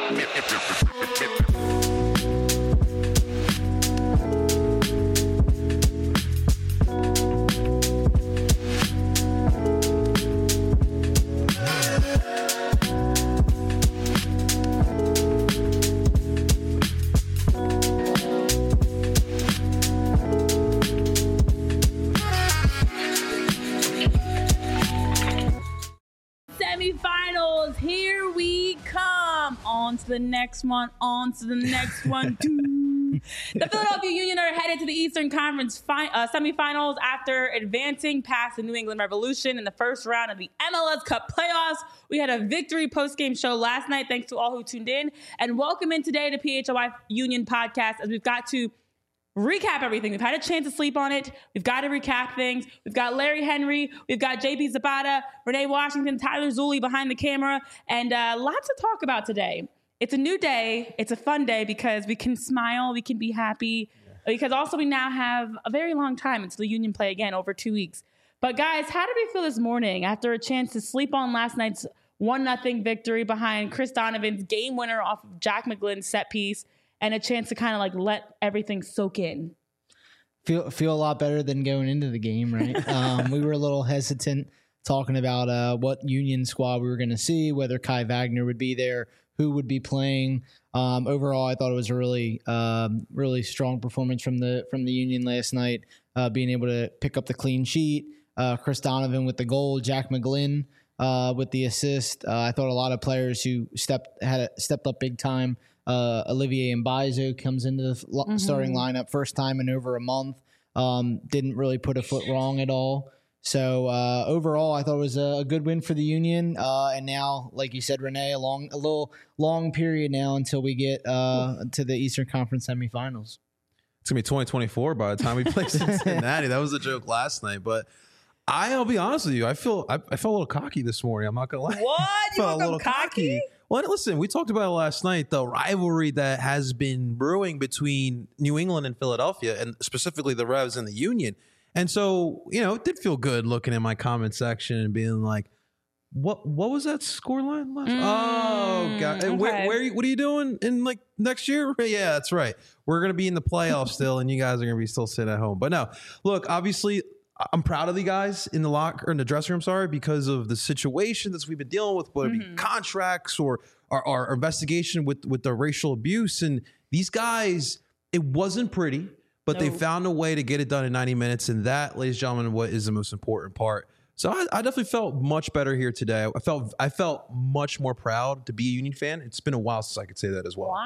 Semifinals, here we come. On to the next one, on to the next one. The Philadelphia Union are headed to the Eastern Conference semifinals after advancing past the New England Revolution in the first round of the MLS Cup playoffs. We had a victory post-game show last night. Thanks to all who tuned in. And welcome in today to PHLY Union Podcast, as we've got to recap everything. We've had a chance to sleep on it. We've got to recap things. We've got Larry Henry. We've got JP Zapata, Renee Washington, Tyler Zulli behind the camera, and lots to talk about today. It's a new day. It's a fun day because we can smile. We can be happy. Because also we now have a very long time until the Union play again, over 2 weeks. But guys, how did we feel this morning after a chance to sleep on last night's 1-0 victory behind Chris Donovan's game winner off of Jack McGlynn's set piece, and a chance to kind of like let everything soak in? Feel a lot better than going into the game, right? We were a little hesitant talking about what Union squad we were going to see, whether Kai Wagner would be there, who would be playing. Overall, I thought it was a really strong performance from the Union last night, being able to pick up the clean sheet. Chris Donovan with the goal, Jack McGlynn with the assist. I thought a lot of players who stepped up big time. Olivier Mbaizo comes into the starting lineup first time in over a month. Didn't really put a foot wrong at all. So overall, I thought it was a good win for the Union. And now, like you said, Renee, a little long period now until we get to the Eastern Conference semifinals. It's gonna be 2024 by the time we play Cincinnati. That was a joke last night, but I'll be honest with you. I felt a little cocky this morning. I'm not gonna lie. What? You felt woke up cocky? Well, listen, we talked about it last night, the rivalry that has been brewing between New England and Philadelphia, and specifically the Revs and the Union. And so, it did feel good looking in my comment section and being like, what was that scoreline last? Oh, God. Okay. What are you doing in like next year? Yeah, that's right. We're going to be in the playoffs still, and you guys are going to be still sitting at home. But no, look, obviously, I'm proud of the guys in the dressing room, because of the situation that we've been dealing with, whether it be contracts or our investigation with the racial abuse. And these guys, it wasn't pretty, but they found a way to get it done in 90 minutes. And that, ladies and gentlemen, what is the most important part. So I definitely felt much better here today. I felt much more proud to be a Union fan. It's been a while since I could say that as well.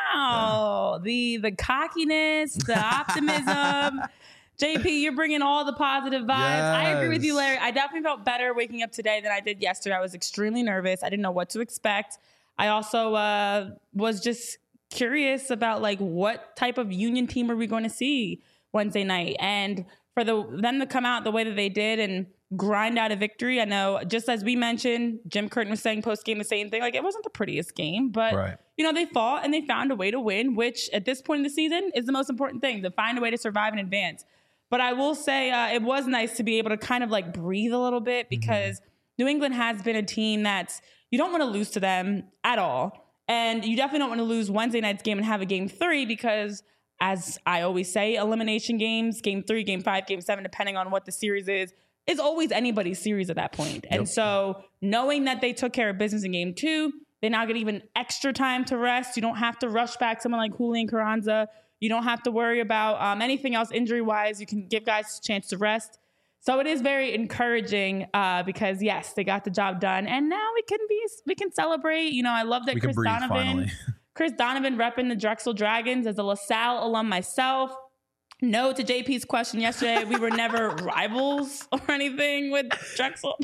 Wow. Yeah. The cockiness, the optimism. JP, you're bringing all the positive vibes. Yes. I agree with you, Larry. I definitely felt better waking up today than I did yesterday. I was extremely nervous. I didn't know what to expect. I also was just curious about like what type of Union team are we going to see Wednesday night, and for them to come out the way that they did and grind out a victory. I know, just as we mentioned, Jim Curtin was saying post game the same thing. Like, it wasn't the prettiest game, but they fought and they found a way to win, which at this point in the season is the most important thing, to find a way to survive and advance. But I will say it was nice to be able to kind of like breathe a little bit, because New England has been a team that's, you don't want to lose to them at all. And you definitely don't want to lose Wednesday night's game and have a game 3, because, as I always say, elimination games, game 3, game 5, game 7, depending on what the series is always anybody's series at that point. Yep. And so knowing that they took care of business in game 2, they now get even extra time to rest. You don't have to rush back someone like Julian Carranza. You don't have to worry about anything else injury-wise. You can give guys a chance to rest. So it is very encouraging because, yes, they got the job done. And now we can celebrate. I love that Chris Donovan repping the Drexel Dragons. As a LaSalle alum myself, no to JP's question yesterday, we were never rivals or anything with Drexel.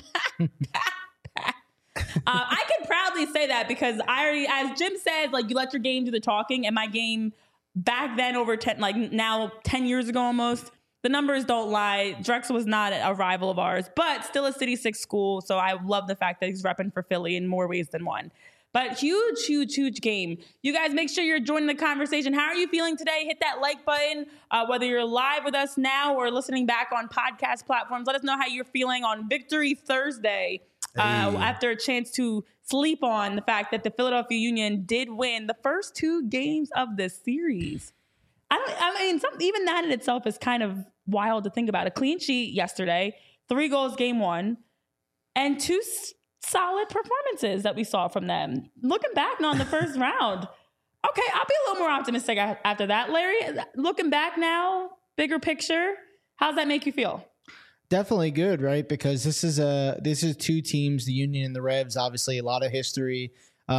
I can proudly say that, because I already, as Jim says, like, you let your game do the talking, and my game back then, over 10 years ago almost, the numbers don't lie. Drexel was not a rival of ours, but still a City 6 school. So I love the fact that he's repping for Philly in more ways than one. But huge game. You guys, make sure you're joining the conversation. How are you feeling today? Hit that like button. Whether you're live with us now or listening back on podcast platforms, let us know how you're feeling on Victory Thursday after a chance to sleep on the fact that the Philadelphia Union did win the first 2 games of the series. Even that in itself is kind of wild to think about. A clean sheet yesterday, 3 goals game 1, and 2 solid performances that we saw from them. Looking back now on the first round, okay, I'll be a little more optimistic after that. Larry, looking back now, bigger picture, how's that make you feel? Definitely good, right? Because this is 2 teams, the Union and the Revs, obviously a lot of history,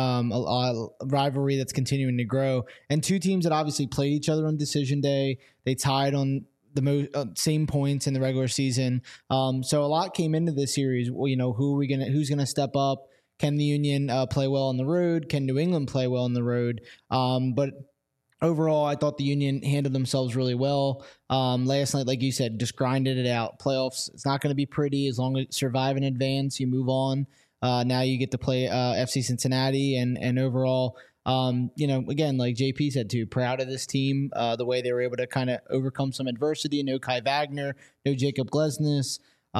a rivalry that's continuing to grow, and 2 teams that obviously played each other on decision day. They tied on the same points in the regular season. So a lot came into this series. Well, who's gonna step up? Can the Union play well on the road? Can New England play well on the road? But overall, I thought the Union handled themselves really well. Last night, like you said, just grinded it out. Playoffs, it's not going to be pretty. As long as you survive in advance, you move on. Now you get to play FC Cincinnati, and overall, again, like JP said too, proud of this team, the way they were able to kind of overcome some adversity. No Kai Wagner, no Jacob Glesnes,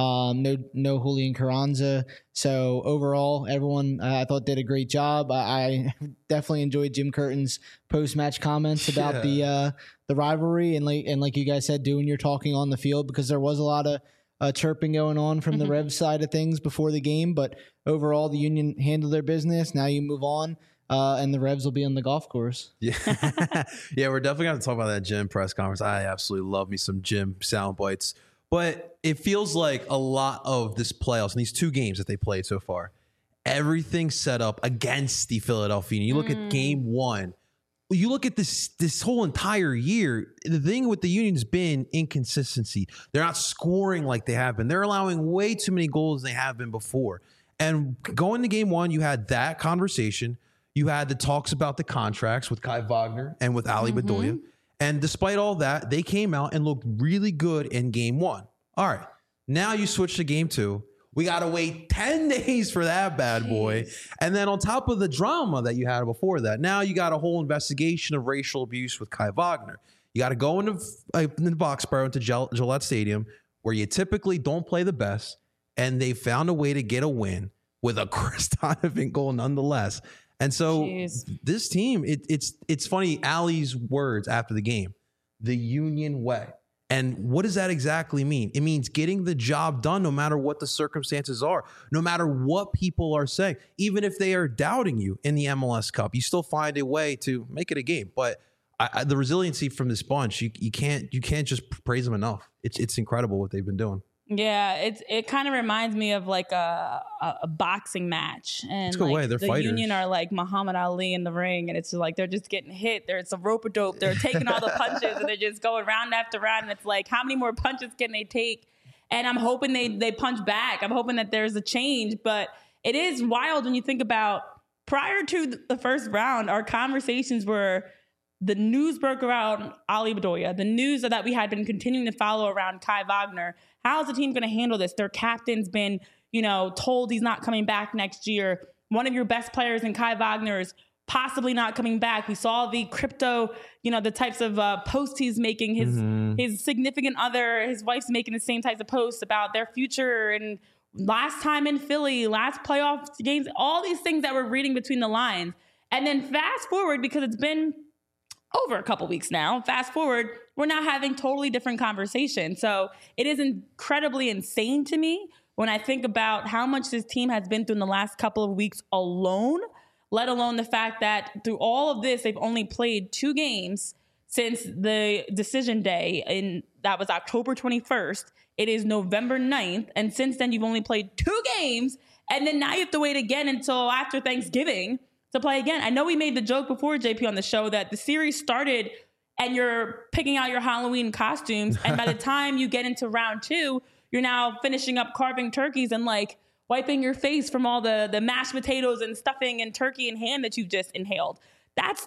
no Julian Carranza. So overall, everyone I thought did a great job. I definitely enjoyed Jim Curtin's post-match comments about the rivalry and like you guys said, doing your talking on the field, because there was a lot of chirping going on from the Revs side of things before the game. But overall, the Union handled their business. Now you move on. And the Revs will be on the golf course. Yeah, yeah, we're definitely going to talk about that Jim press conference. I absolutely love me some Jim sound bites. But it feels like a lot of this playoffs and these 2 games that they played so far, everything's set up against the Philadelphia Union. You look at game 1. You look at this whole entire year, the thing with the Union's been inconsistency. They're not scoring like they have been. They're allowing way too many goals than they have been before. And going to game 1, you had that conversation. You had the talks about the contracts with Kai Wagner and with Ali Bedoya. And despite all that, they came out and looked really good in game 1. All right. Now you switch to game 2. We got to wait 10 days for that bad boy. And then on top of the drama that you had before that, now you got a whole investigation of racial abuse with Kai Wagner. You got to go into Foxborough, into Gillette Stadium, where you typically don't play the best. And they found a way to get a win with a Chris Donovan goal nonetheless. And so this team, it's funny, Ali's words after the game, the Union way. And what does that exactly mean? It means getting the job done no matter what the circumstances are, no matter what people are saying. Even if they are doubting you in the MLS Cup, you still find a way to make it a game. But the resiliency from this bunch, you can't just praise them enough. It's incredible what they've been doing. Yeah, it kind of reminds me of like a boxing match, and like They're the fighters. Union are like Muhammad Ali in the ring, and it's just like they're just getting hit. There's a rope-a-dope. They're taking all the punches, and they're just going round after round. And it's like, how many more punches can they take? And I'm hoping they punch back. I'm hoping that there's a change. But it is wild when you think about prior to the first round, our conversations were the news broke around Ali Bedoya, the news that we had been continuing to follow around Kai Wagner. How's the team going to handle this? Their captain's been, told he's not coming back next year. One of your best players in Kai Wagner is possibly not coming back. We saw the crypto, the types of posts he's making. His significant other, his wife's making the same types of posts about their future and last time in Philly, last playoff games, all these things that we're reading between the lines. And then fast forward, because it's been over a couple weeks now, fast forward, we're now having totally different conversations. So it is incredibly insane to me when I think about how much this team has been through in the last couple of weeks alone, let alone the fact that through all of this, they've only played 2 games since the decision day, and that was October 21st. It is November 9th. And since then, you've only played 2 games. And then now you have to wait again until after Thanksgiving to play again. I know we made the joke before, JP, on the show that the series started and you're picking out your Halloween costumes. And by the time you get into round 2, you're now finishing up carving turkeys and like wiping your face from all the mashed potatoes and stuffing and turkey and ham that you've just inhaled. That's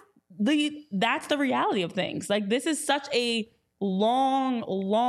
the reality of things. Like, this is such a long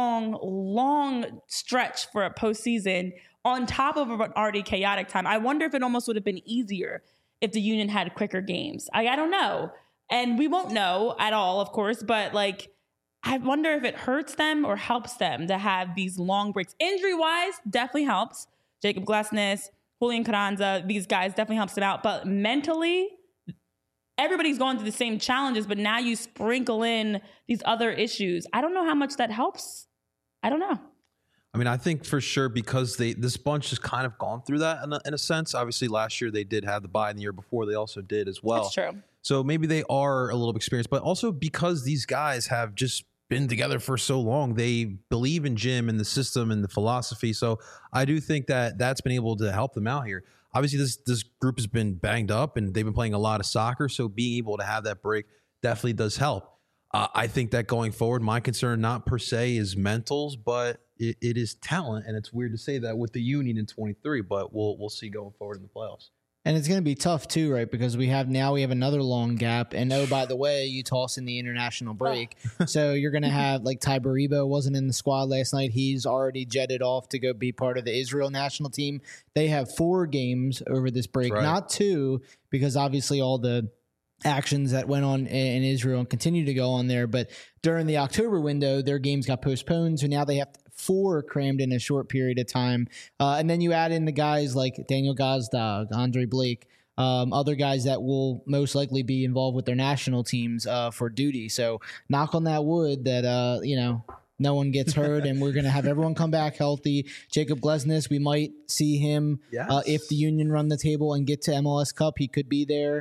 stretch for a postseason on top of an already chaotic time. I wonder if it almost would have been easier if the Union had quicker games. I don't know. And we won't know at all, of course, but like, I wonder if it hurts them or helps them to have these long breaks. Injury-wise, definitely helps. Jacob Glesnes, Julian Carranza, these guys definitely helps them out. But mentally, everybody's going through the same challenges, but now you sprinkle in these other issues. I don't know how much that helps. I don't know. I mean, I think for sure because this bunch has kind of gone through that in a sense. Obviously, last year they did have the bye, and the year before they also did as well. That's true. So maybe they are a little experienced, but also because these guys have just been together for so long, they believe in Jim and the system and the philosophy. So I do think that that's been able to help them out here. Obviously, this group has been banged up and they've been playing a lot of soccer. So being able to have that break definitely does help. I think that going forward, my concern not per se is mentals, but it is talent. And it's weird to say that with the Union in 23, but we'll see going forward in the playoffs. And it's going to be tough too, right? Because we have another long gap. And oh, by the way, you toss in the international break. So you're going to have like Ty Baribo wasn't in the squad last night. He's already jetted off to go be part of the Israel national team. They have 4 games over this break, not 2, because obviously all the actions that went on in Israel and continue to go on there. But during the October window, their games got postponed. So now they have 4 crammed in a short period of time. And then you add in the guys like Daniel Gazdag, Andre Blake, other guys that will most likely be involved with their national teams for duty. So knock on that wood that, no one gets hurt and we're going to have everyone come back healthy. Jacob Glesnes, we might see him if the Union run the table and get to MLS Cup. He could be there.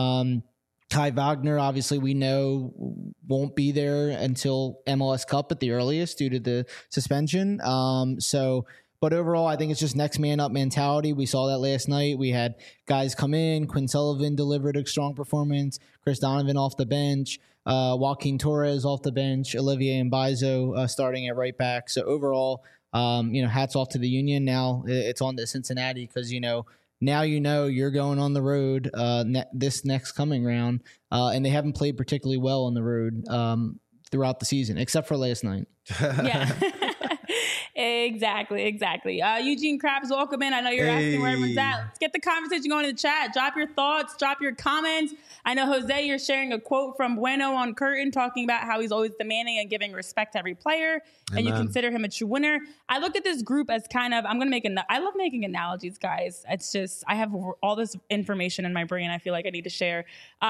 Kai Wagner, obviously, we know won't be there until MLS Cup at the earliest due to the suspension. But overall, I think it's just next man up mentality. We saw that last night. We had guys come in. Quinn Sullivan delivered a strong performance. Chris Donovan off the bench. Joaquin Torres off the bench. Olivier Mbaizo starting at right back. So overall, hats off to the Union. Now it's on to Cincinnati because, now you're going on the road this next coming round, and they haven't played particularly well on the road throughout the season, except for last night. Yeah. Exactly. Eugene Krabs, welcome in. I know you're asking where everyone's at. Let's get the conversation going in the chat. Drop your thoughts, drop your comments. I know, Jose, you're sharing a quote from Bueno on Curtin talking about how he's always demanding and giving respect to every player, and you consider him a true winner. I look at this group as kind of, I love making analogies, guys. It's just, I have all this information in my brain I feel like I need to share.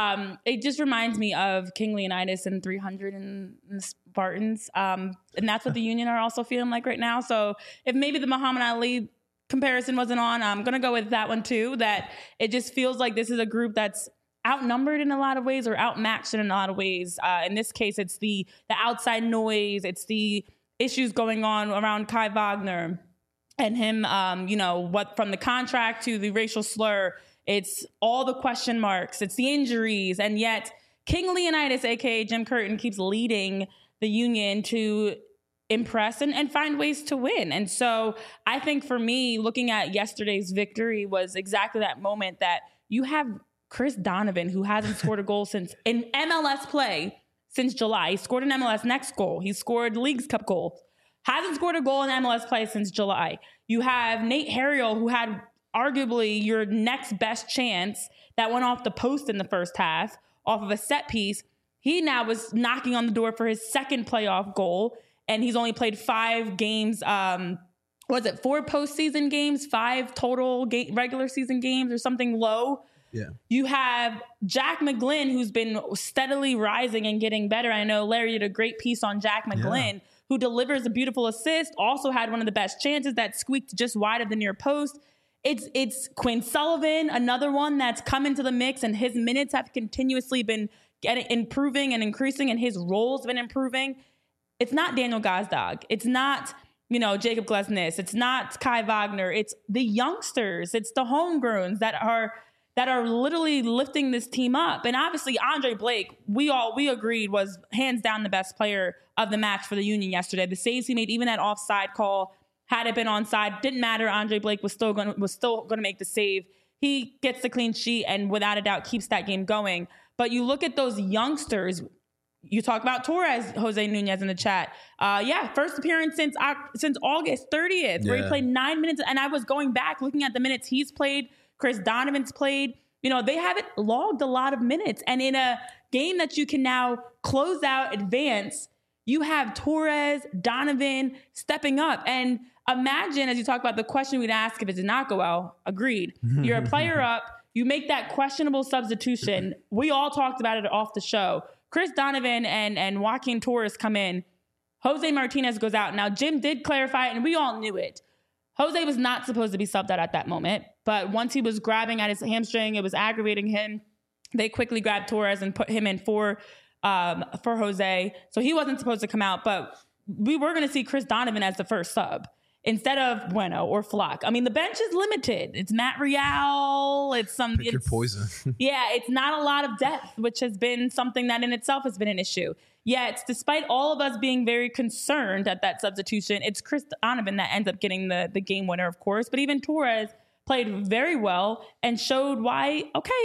It just reminds me of King Leonidas and 300 and the Spartans. And that's what the Union are also feeling like right now. So if maybe the Muhammad Ali comparison wasn't on, I'm going to go with that one too, that it just feels like this is a group that's outnumbered in a lot of ways or outmatched in a lot of ways. In this case, it's the outside noise. It's the issues going on around Kai Wagner and him, what from the contract to the racial slur. It's all the question marks. It's the injuries. And yet King Leonidas, a.k.a. Jim Curtin, keeps leading the Union to impress and find ways to win. And so I think for me, looking at yesterday's victory was exactly that moment that you have Chris Donovan, who hasn't scored a goal in MLS play since July. He scored an MLS Next goal. He scored Leagues Cup goal. Hasn't scored a goal in MLS play since July. You have Nate Harriel, who had arguably your next best chance that went off the post in the first half off of a set piece. He now was knocking on the door for his second playoff goal, and he's only played 5 games. 4 postseason games, 5 total regular season games or something low. Yeah. You have Jack McGlynn, who's been steadily rising and getting better. I know Larry did a great piece on Jack McGlynn, who delivers a beautiful assist, also had one of the best chances that squeaked just wide of the near post. It's Quinn Sullivan, another one that's come into the mix, and his minutes have continuously been improving and increasing, and his role's been improving. It's not Daniel Gazdag. It's not, Jacob Glesnes. It's not Kai Wagner. It's the youngsters. It's the homegrowns that are literally lifting this team up. And obviously Andre Blake, we agreed was hands down the best player of the match for the Union yesterday. The saves he made, even that offside call, had it been onside, didn't matter. Andre Blake was still going to make the save. He gets the clean sheet and without a doubt keeps that game going. But you look at those youngsters. You talk about Torres, Jose Nunez in the chat. First appearance since August 30th, where he played 9 minutes. And I was going back looking at the minutes he's played. Chris Donovan's played. They haven't logged a lot of minutes. And in a game that you can now close out, advance, you have Torres, Donovan stepping up. And imagine, as you talk about the question we'd ask if it did not go well, agreed. You're a player up. You make that questionable substitution. We all talked about it off the show. Chris Donovan and Joaquin Torres come in. Jose Martinez goes out. Now, Jim did clarify it, and we all knew it. Jose was not supposed to be subbed out at that moment. But once he was grabbing at his hamstring, it was aggravating him. They quickly grabbed Torres and put him in for Jose. So he wasn't supposed to come out. But we were going to see Chris Donovan as the first sub instead of Bueno or Flock. I mean, the bench is limited. It's Matt Real. It's some. Pick your poison. Yeah, it's not a lot of depth, which has been something that in itself has been an issue. Yet, despite all of us being very concerned at that substitution, it's Chris Donovan that ends up getting the game winner, of course. But even Torres played very well and showed why,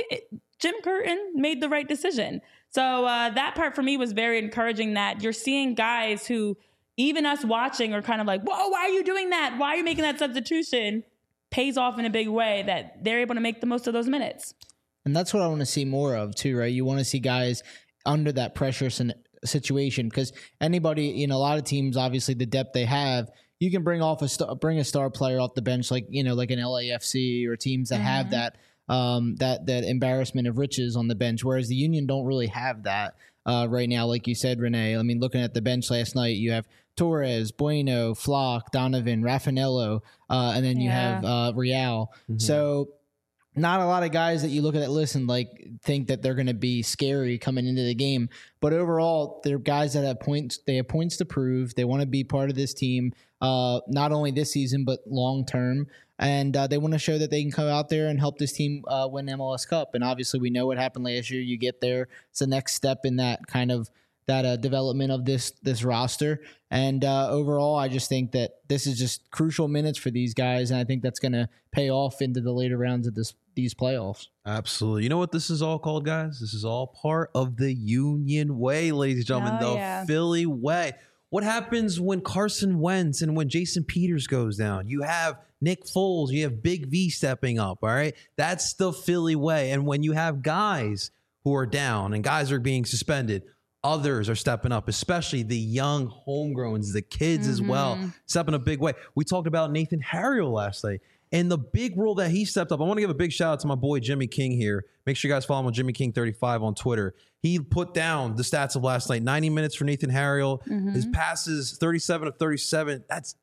Jim Curtin made the right decision. So that part for me was very encouraging, that you're seeing guys who, even us watching, are kind of like, whoa, why are you doing that? Why are you making that substitution? Pays off in a big way that they're able to make the most of those minutes. And that's what I want to see more of too, right? You want to see guys under that pressure situation, because anybody, a lot of teams, obviously the depth they have, you can bring a star player off the bench, like an LAFC or teams that have that embarrassment of riches on the bench, whereas the Union don't really have that right now. Like you said, Renee, I mean, looking at the bench last night, you have Torres, Bueno, Flock, Donovan, Raffanello, and then you have Real. Mm-hmm. So not a lot of guys that you look at that list and think that they're going to be scary coming into the game. But overall, they're guys that have points. They have points to prove. They want to be part of this team, not only this season but long term. And they want to show that they can come out there and help this team win MLS Cup. And obviously, we know what happened last year. You get there; it's the next step in that kind of development of this roster. And overall, I just think that this is just crucial minutes for these guys, and I think that's going to pay off into the later rounds of these playoffs. Absolutely. You know what this is all called, guys? This is all part of the Union Way, ladies and gentlemen, Philly Way. What happens when Carson Wentz and when Jason Peters goes down? You have Nick Foles, you have Big V stepping up, all right? That's the Philly way. And when you have guys who are down and guys are being suspended, others are stepping up, especially the young homegrowns, the kids as well, stepping a big way. We talked about Nathan Harriel last night and the big role that he stepped up. I want to give a big shout out to my boy Jimmy King here. Make sure you guys follow him on Jimmy King 35 on Twitter. He put down the stats of last night. 90 minutes for Nathan Harriel. His passes, 37 of 37. That's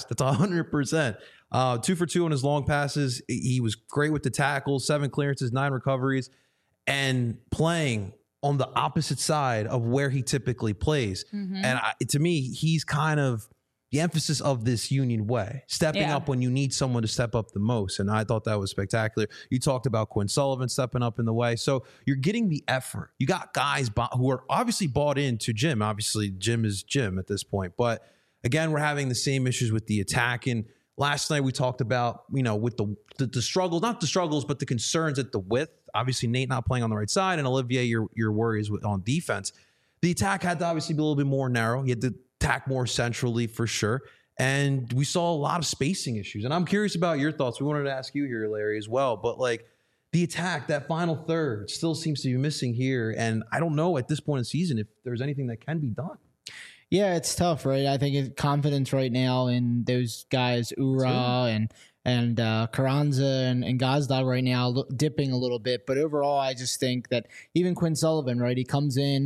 100%. 2 for 2 on his long passes. He was great with the tackles, 7 clearances, 9 recoveries, and playing on the opposite side of where he typically plays. And to me, he's kind of the emphasis of this Union Way, stepping up when you need someone to step up the most. And I thought that was spectacular. You talked about Quinn Sullivan stepping up in the way. So you're getting the effort. You got guys who are obviously bought into Jim. Obviously, Jim is Jim at this point. But again, we're having the same issues with the attack. And last night we talked about, with the struggles, not the struggles, but the concerns at the width. Obviously, Nate not playing on the right side, and Olivier, your worries on defense. The attack had to obviously be a little bit more narrow. You had to attack more centrally for sure. And we saw a lot of spacing issues. And I'm curious about your thoughts. We wanted to ask you here, Larry, as well. But the attack, that final third, still seems to be missing here. And I don't know at this point in the season if there's anything that can be done. Yeah, it's tough, right? I think it's confidence right now in those guys, Ura and Carranza and Gazdag right now dipping a little bit. But overall, I just think that even Quinn Sullivan, right, he comes in,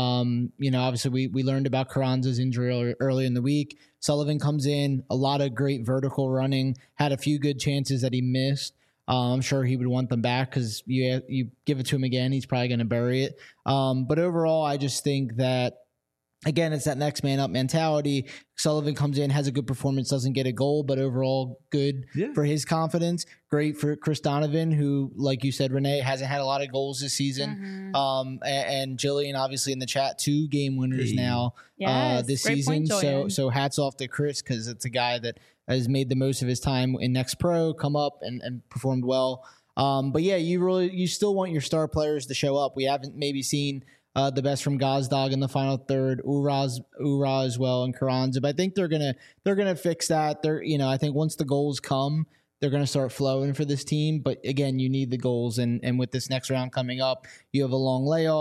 obviously we learned about Carranza's injury early in the week. Sullivan comes in, a lot of great vertical running, had a few good chances that he missed. I'm sure he would want them back because you give it to him again, he's probably going to bury it. But overall, I just think that, again, it's that next man up mentality. Sullivan comes in, has a good performance, doesn't get a goal, but overall good for his confidence. Great for Chris Donovan, who, like you said, Renee, hasn't had a lot of goals this season. And Jillian, obviously, in the chat, 2 game winners now this season. So hats off to Chris, because it's a guy that has made the most of his time in Next Pro, come up and performed well. But yeah, you still want your star players to show up. We haven't maybe seen the best from Gazdag in the final third, Ura as well, and Carranza. But I think they're gonna fix that. I think once the goals come, they're gonna start flowing for this team. But again, you need the goals, and with this next round coming up, you have a long layoff,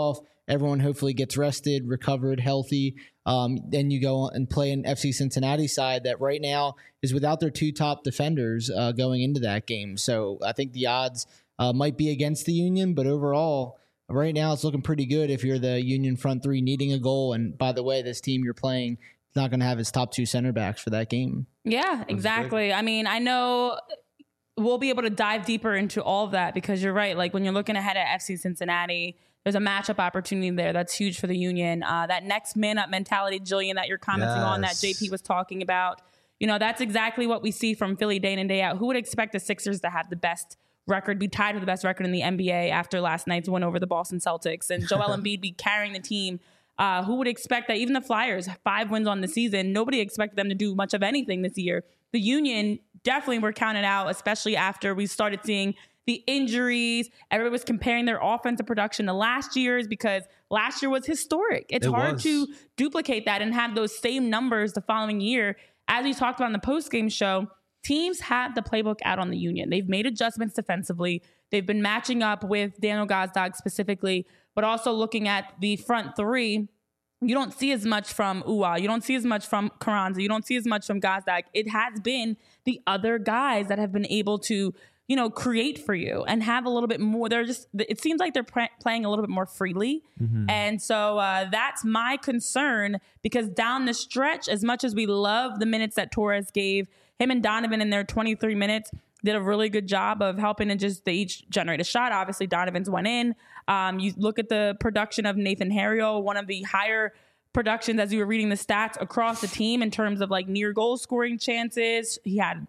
everyone hopefully gets rested, recovered, healthy. Then you go and play an FC Cincinnati side that right now is without their 2 top defenders going into that game. So I think the odds might be against the Union, but overall, right now it's looking pretty good if you're the Union front 3 needing a goal. And by the way, this team you're playing is not going to have its top 2 center backs for that game. Yeah, exactly. I mean, I know we'll be able to dive deeper into all of that because you're right. Like when you're looking ahead at FC Cincinnati, there's a matchup opportunity there that's huge for the Union. That next man up mentality, Jillian, that you're commenting on, that JP was talking about, that's exactly what we see from Philly day in and day out. Who would expect the Sixers to have the best record, be tied with the best record in the NBA after last night's win over the Boston Celtics, and Joel Embiid be carrying the team? Who would expect that? Even the Flyers, 5 wins on the season, nobody expected them to do much of anything this year. The Union definitely were counted out, especially after we started seeing the injuries. Everybody was comparing their offensive production to last year's because last year was historic. It's hard to duplicate that and have those same numbers the following year. As we talked about in the postgame show, teams have the playbook out on the Union. They've made adjustments defensively. They've been matching up with Daniel Gazdag specifically, but also looking at the front 3. You don't see as much from Uwa. You don't see as much from Carranza. You don't see as much from Gazdag. It has been the other guys that have been able to, create for you and have a little bit more. It seems like they're playing a little bit more freely. Mm-hmm. And so that's my concern because down the stretch, as much as we love the minutes that Torres gave, him and Donovan in their 23 minutes did a really good job of helping and they each generate a shot. Obviously, Donovan's went in. You look at the production of Nathan Harriel, one of the higher productions as you were reading the stats across the team in terms of like near goal scoring chances. He had,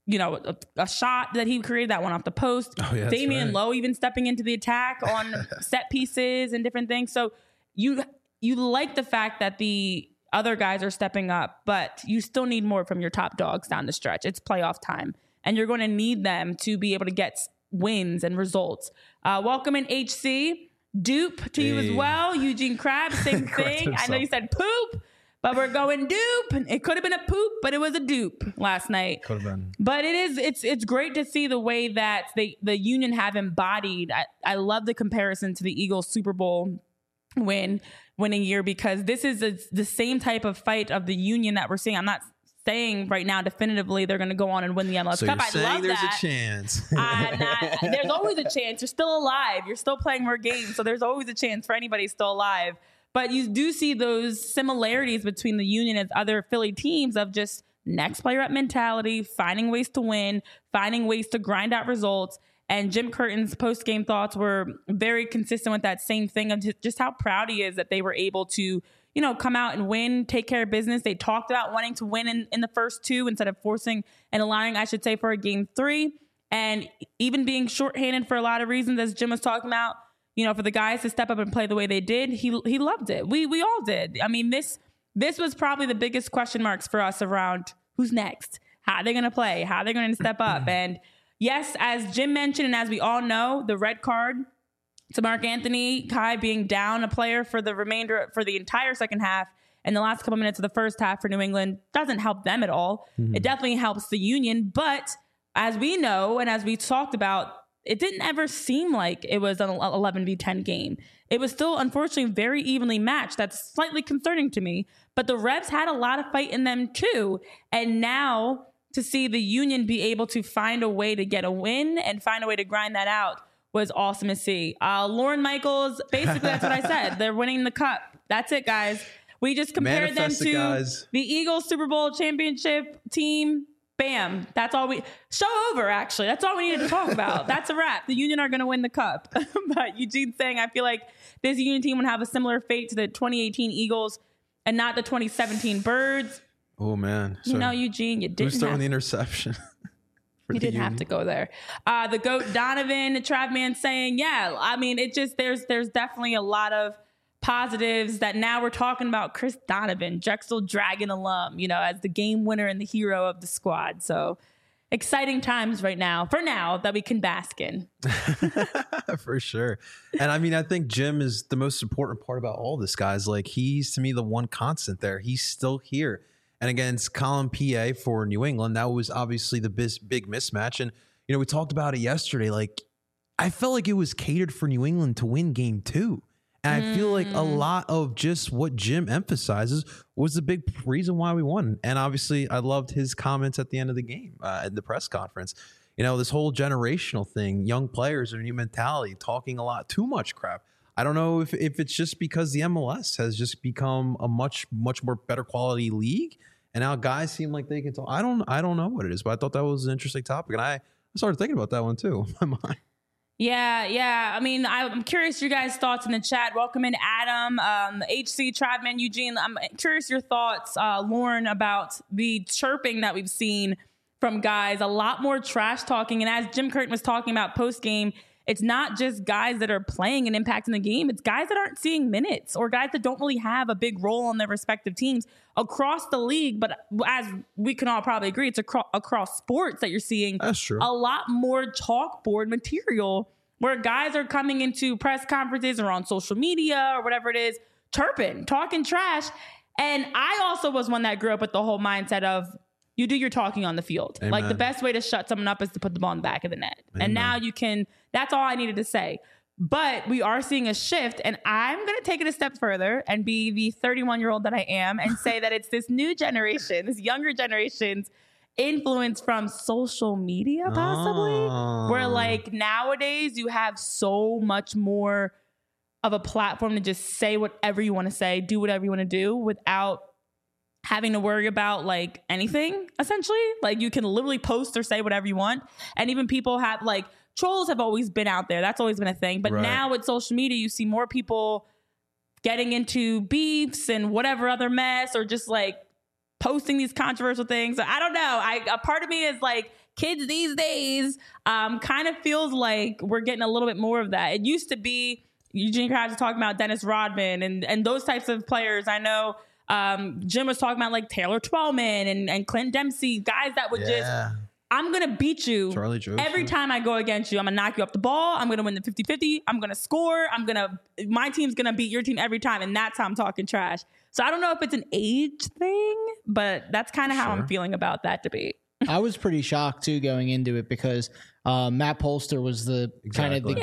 a shot that he created that one off the post. Oh, yeah, Damian Lowe even stepping into the attack on set pieces and different things. So you like the fact that the other guys are stepping up, but you still need more from your top dogs down the stretch. It's playoff time, and you're going to need them to be able to get wins and results. Welcome in HC. Dupe to you as well. Eugene Krabs, same thing. I know you said poop, but we're going dupe. It could have been a poop, but it was a dupe last night. Could have been. But it's great to see the way that the Union have embodied. I love the comparison to the Eagles Super Bowl winning year because this is the same type of fight of the Union that we're seeing. I'm not saying right now definitively they're going to go on and win the MLS Cup. You're saying there's a chance. There's always a chance. You're still alive. You're still playing more games, so there's always a chance for anybody still alive. But you do see those similarities between the Union and other Philly teams of just next player up mentality, finding ways to win, finding ways to grind out results. And Jim Curtin's post-game thoughts were very consistent with that same thing of just how proud he is that they were able to, come out and win, take care of business. They talked about wanting to win in the first 2 instead of forcing and allowing, I should say, for a game 3. And even being shorthanded for a lot of reasons, as Jim was talking about, for the guys to step up and play the way they did, he loved it. We all did. I mean, this was probably the biggest question marks for us around who's next, how are they going to play, how are they going to step up. And yes, as Jim mentioned, and as we all know, the red card to Mark Anthony Kai being down a player for the entire second half and the last couple minutes of the first half for New England doesn't help them at all. Mm-hmm. It definitely helps the Union. But as we know, and as we talked about, it didn't ever seem like it was an 11v10 game. It was still, unfortunately, very evenly matched. That's slightly concerning to me. But the Revs had a lot of fight in them too. And now to see the Union be able to find a way to get a win and find a way to grind that out was awesome to see. Lauren Michaels, basically that's what I said. They're winning the cup. That's it, guys. We just compared them to the Eagles Super Bowl championship team. Bam. That's all show over, actually. That's all we needed to talk about. That's a wrap. The Union are going to win the cup. But Eugene's saying, I feel like this Union team would have a similar fate to the 2018 Eagles and not the 2017 Birds. Oh, man. Eugene, you didn't Who's throwing the interception? You didn't have to go there. The GOAT Donovan, Travman saying, yeah, I mean, there's definitely a lot of positives that now we're talking about Chris Donovan, Drexel Dragon alum, as the game winner and the hero of the squad. So exciting times right now, for now, that we can bask in. For sure. And I mean, I think Jim is the most important part about all this, guys. Like, he's, to me, the one constant there. He's still here. And against Colin PA for New England, that was obviously the big mismatch. And, we talked about it yesterday. Like, I felt like it was catered for New England to win game 2. And I feel like a lot of just what Jim emphasizes was the big reason why we won. And obviously, I loved his comments at the end of the game at the press conference. You know, this whole generational thing, young players, a new mentality, talking a lot too much crap. I don't know if it's just because the MLS has just become a much more better quality league, and now guys seem like they can talk. I don't know what it is, but I thought that was an interesting topic, and I started thinking about that one too in my mind. Yeah. I mean, I'm curious your guys' thoughts in the chat. Welcome in, Adam, HC, Tradman, Eugene. I'm curious your thoughts, Lauren, about the chirping that we've seen from guys. A lot more trash talking, and as Jim Curtin was talking about post game. It's not just guys that are playing and impacting the game. It's guys that aren't seeing minutes or guys that don't really have a big role on their respective teams across the league. But as we can all probably agree, it's across sports that you're seeing That's true. a lot more chalkboard material where guys are coming into press conferences or on social media or whatever it is, chirping, talking trash. And I also was one that grew up with the whole mindset of, you do your talking on the field. Amen. Like the best way to shut someone up is to put the ball in the back of the net. Amen. And now you can, that's all I needed to say. But we are seeing a shift, and I'm going to take it a step further and be the 31-year-old that I am and say that it's this new generation, this younger generation's influence from social media possibly, where like nowadays you have so much more of a platform to just say whatever you want to say, do whatever you want to do without having to worry about like anything, essentially. Like you can literally post or say whatever you want. And even people have like trolls have always been out there. That's always been a thing. But now with social media, you see more people getting into beefs and whatever other mess or just like posting these controversial things. I don't know. A part of me is like, kids these days kind of feels like we're getting a little bit more of that. It used to be Eugene Krabs was talking about Dennis Rodman and those types of players. I know Jim was talking about like Taylor Twellman and Clint Dempsey, guys that would just, I'm going to beat you every time I go against you. I'm going to knock you off the ball. I'm going to win the 50-50. I'm going to score. My team's going to beat your team every time. And that's how I'm talking trash. So I don't know if it's an age thing, but that's kind of how I'm feeling about that debate. I was pretty shocked too going into it because Matt Polster was the kind of the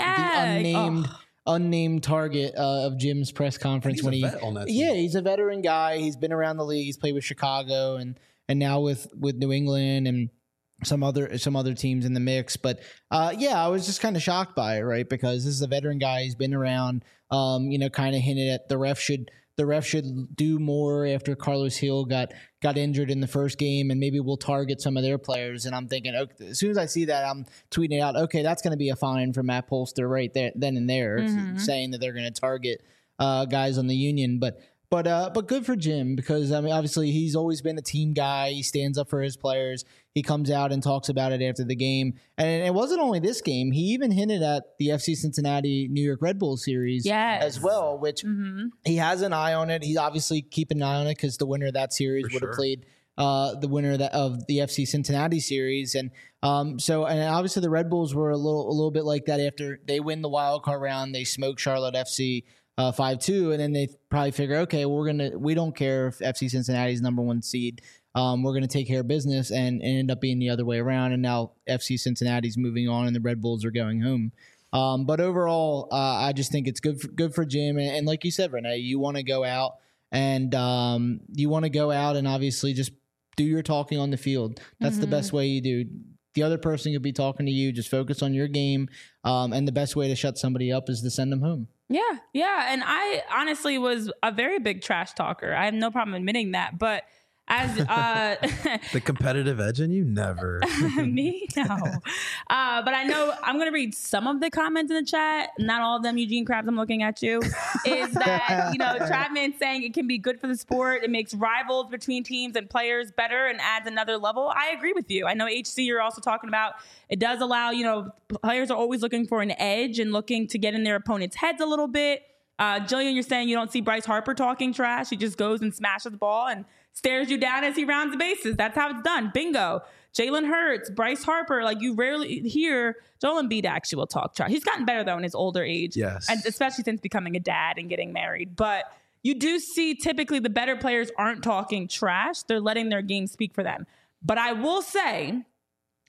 unnamed target of Jim's press conference when he's a veteran guy. He's been around the league. He's played with Chicago and now with New England and some other teams in the mix. But I was just kind of shocked by it, right? Because this is a veteran guy. He's been around. Kind of hinted at the ref should do more after Carlos Hill got injured in the first game, and maybe we'll target some of their players. And I'm thinking, okay, as soon as I see that, I'm tweeting it out, okay, that's going to be a fine for Matt Polster right there, then and there, saying that they're going to target guys on the Union. But good for Jim because, I mean, obviously he's always been a team guy. He stands up for his players. He comes out and talks about it after the game. And it wasn't only this game. He even hinted at the FC Cincinnati New York Red Bull series as well, which he has an eye on it. He's obviously keeping an eye on it because the winner of that series would have played the winner of the FC Cincinnati series. And obviously the Red Bulls were a little bit like that after they win the wild card round. They smoke Charlotte FC 5-2, and then they probably figure, okay, we don't care if FC Cincinnati's number one seed. We're going to take care of business and end up being the other way around. And now FC Cincinnati's moving on and the Red Bulls are going home. But overall, I just think it's good for Jim. And like you said, Renee, you want to go out and obviously just do your talking on the field. That's the best way you do. The other person could be talking to you. Just focus on your game. And the best way to shut somebody up is to send them home. Yeah. And I honestly was a very big trash talker. I have no problem admitting that. But as the competitive edge in you, never. Me? No. But I know I'm going to read some of the comments in the chat. Not all of them, Eugene Krabs, I'm looking at you. Is that, Tradman saying it can be good for the sport. It makes rivals between teams and players better and adds another level. I agree with you. I know HC, you're also talking about it does allow, players are always looking for an edge and looking to get in their opponent's heads a little bit. Jillian, you're saying you don't see Bryce Harper talking trash. He just goes and smashes the ball and stares you down as he rounds the bases. That's how it's done. Bingo. Jalen Hurts, Bryce Harper, like you rarely hear. Joel Embiid actually will talk trash. He's gotten better though in his older age. Yes. And especially since becoming a dad and getting married. But you do see typically the better players aren't talking trash. They're letting their game speak for them. But I will say,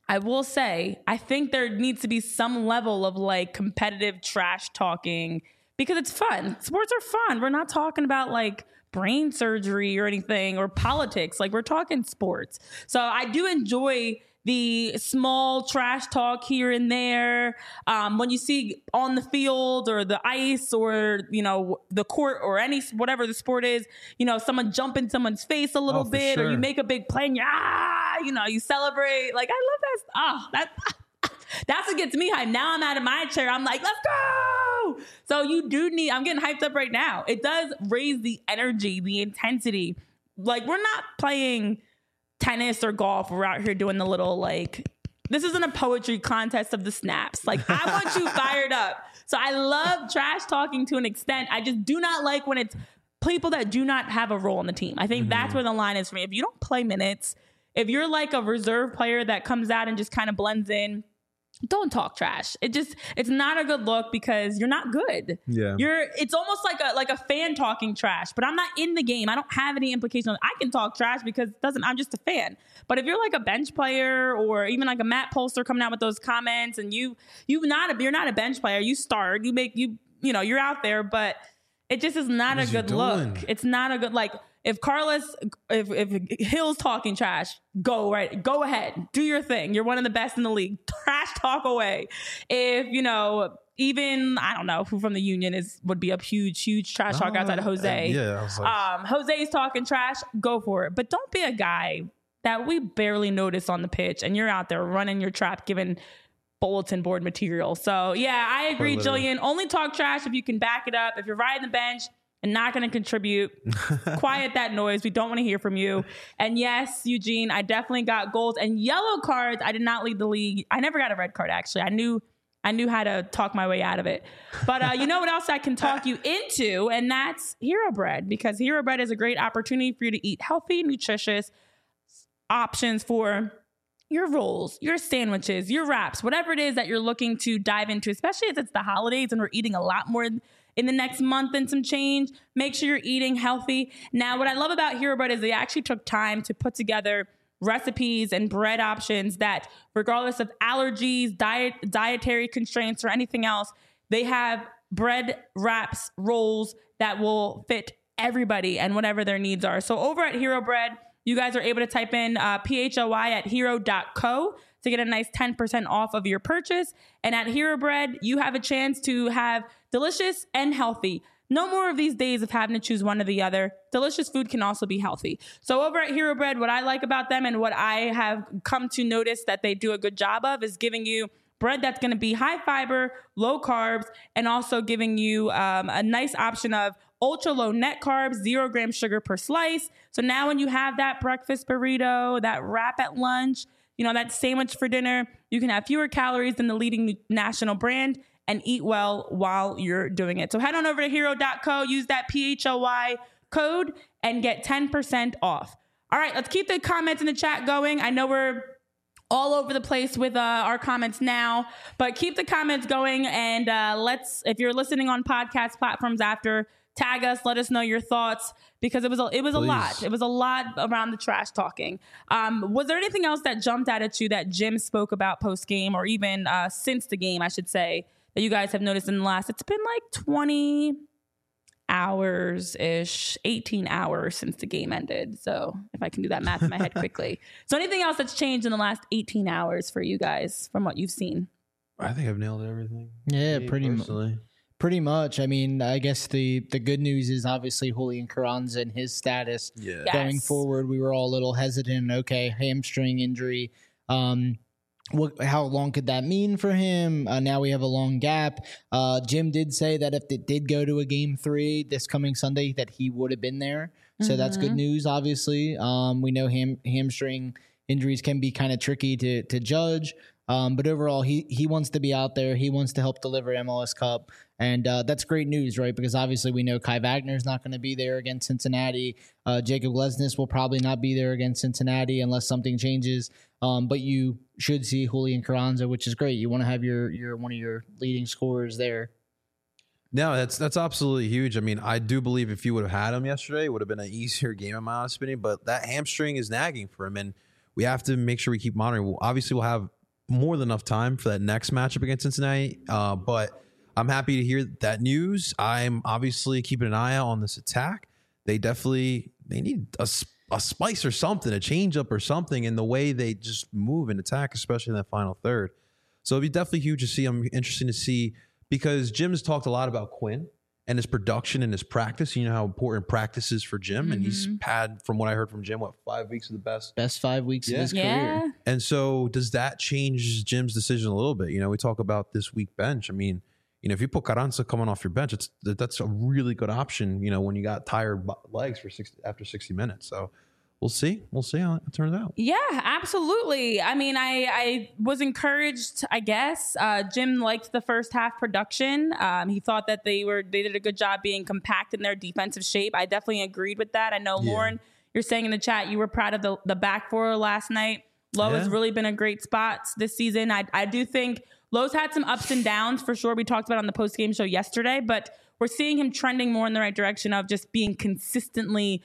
I think there needs to be some level of like competitive trash talking because it's fun. Sports are fun. We're not talking about like brain surgery or anything or politics. Like we're talking sports. So I do enjoy the small trash talk here and there. When you see on the field or the ice or, you know, the court or whatever the sport is, you know, someone jump in someone's face a little bit, or you make a big play and you celebrate. Like, I love that. That's what gets me hyped. Now I'm out of my chair. I'm like, let's go. So I'm getting hyped up right now. It does raise the energy, the intensity. Like, we're not playing tennis or golf. We're out here doing the little, like, this isn't a poetry contest of the snaps. Like, I want you fired up. So I love trash talking to an extent. I just do not like when it's people that do not have a role on the team. I think that's where the line is for me. If you don't play minutes, if you're like a reserve player that comes out and just kind of blends in, don't talk trash. It's not a good look because you're not good. Yeah. It's almost like a fan talking trash, but I'm not in the game. I don't have any implication. I can talk trash because I'm just a fan. But if you're like a bench player or even like a Matt Polster coming out with those comments and you're not a bench player, you start, you're out there, but it just is not a good look. It's not a good, like, if Hill's talking trash, go ahead, do your thing. You're one of the best in the league. Trash talk away. If, even, I don't know who from the Union would be a huge trash talk outside of Jose. I was like, Jose's talking trash, go for it. But don't be a guy that we barely notice on the pitch and you're out there running your trap, giving bulletin board material. So yeah, I agree, Jillian. Only talk trash if you can back it up. If you're riding the bench and not going to contribute, quiet that noise. We don't want to hear from you. And yes, Eugene, I definitely got goals and yellow cards. I did not lead the league. I never got a red card, actually. I knew how to talk my way out of it. But you know what else I can talk you into? And that's Hero Bread, because Hero Bread is a great opportunity for you to eat healthy, nutritious options for your rolls, your sandwiches, your wraps, whatever it is that you're looking to dive into, especially as it's the holidays and we're eating a lot more in the next month and some change. Make sure you're eating healthy. Now, what I love about Hero Bread is they actually took time to put together recipes and bread options that, regardless of allergies, dietary constraints, or anything else, they have bread wraps, rolls that will fit everybody and whatever their needs are. So over at Hero Bread, you guys are able to type in PHOI at hero.co to get a nice 10% off of your purchase. And at Hero Bread, you have a chance to have delicious and healthy. No more of these days of having to choose one or the other. Delicious food can also be healthy. So over at Hero Bread, what I like about them and what I have come to notice that they do a good job of is giving you bread that's going to be high fiber, low carbs, and also giving you a nice option of ultra low net carbs, 0 gram sugar per slice. So now when you have that breakfast burrito, that wrap at lunch, that sandwich for dinner, you can have fewer calories than the leading national brand and eat well while you're doing it. So head on over to hero.co, use that PHOI code and get 10% off. All right, let's keep the comments in the chat going. I know we're all over the place with our comments now, but keep the comments going. And if you're listening on podcast platforms after, tag us, let us know your thoughts, because it was a lot. It was a lot around the trash talking. Was there anything else that jumped out at you that Jim spoke about post game, or even since the game, I should say, that you guys have noticed in the last? It's been like 20 hours ish, 18 hours since the game ended. So if I can do that math in my head quickly. So anything else that's changed in the last 18 hours for you guys from what you've seen? I think I've nailed everything. Yeah, pretty much. I mean, I guess the good news is obviously Julian Carranza and his status going forward. We were all a little hesitant. Okay, hamstring injury. How long could that mean for him? Now we have a long gap. Jim did say that if it did go to a game 3 this coming Sunday, that he would have been there. So that's good news, obviously. We know hamstring injuries can be kind of tricky to judge. But overall, he wants to be out there. He wants to help deliver MLS Cup. And that's great news, right? Because obviously we know Kai Wagner is not going to be there against Cincinnati. Jacob Lesnes will probably not be there against Cincinnati unless something changes. But you should see Julian Carranza, which is great. You want to have your one of your leading scorers there. No, that's absolutely huge. I mean, I do believe if you would have had him yesterday, it would have been an easier game, in my honest opinion. But that hamstring is nagging for him, and we have to make sure we keep monitoring. Obviously, we'll have more than enough time for that next matchup against Cincinnati. But I'm happy to hear that news. I'm obviously keeping an eye out on this attack. They need a spice or something, a change up or something in the way they just move and attack, especially in that final third. So it'd be definitely huge to see. I'm interested to see, because Jim's talked a lot about Quinn and his production and his practice. You know how important practice is for Jim. And he's had, from what I heard from Jim, 5 weeks of the best 5 weeks of his career. And so does that change Jim's decision a little bit? You know, we talk about this week bench. I mean, you know, if you put Carranza coming off your bench, that's a really good option, you know, when you got tired legs after 60 minutes. So we'll see how it turns out. Yeah, absolutely. I mean, I was encouraged, I guess. Jim liked the first half production. He thought that they did a good job being compact in their defensive shape. I definitely agreed with that. I know, Lauren, you're saying in the chat you were proud of the back four last night. Lowe has really been a great spot this season. I do think Lowe's had some ups and downs for sure. We talked about it on the post-game show yesterday, but we're seeing him trending more in the right direction of just being consistently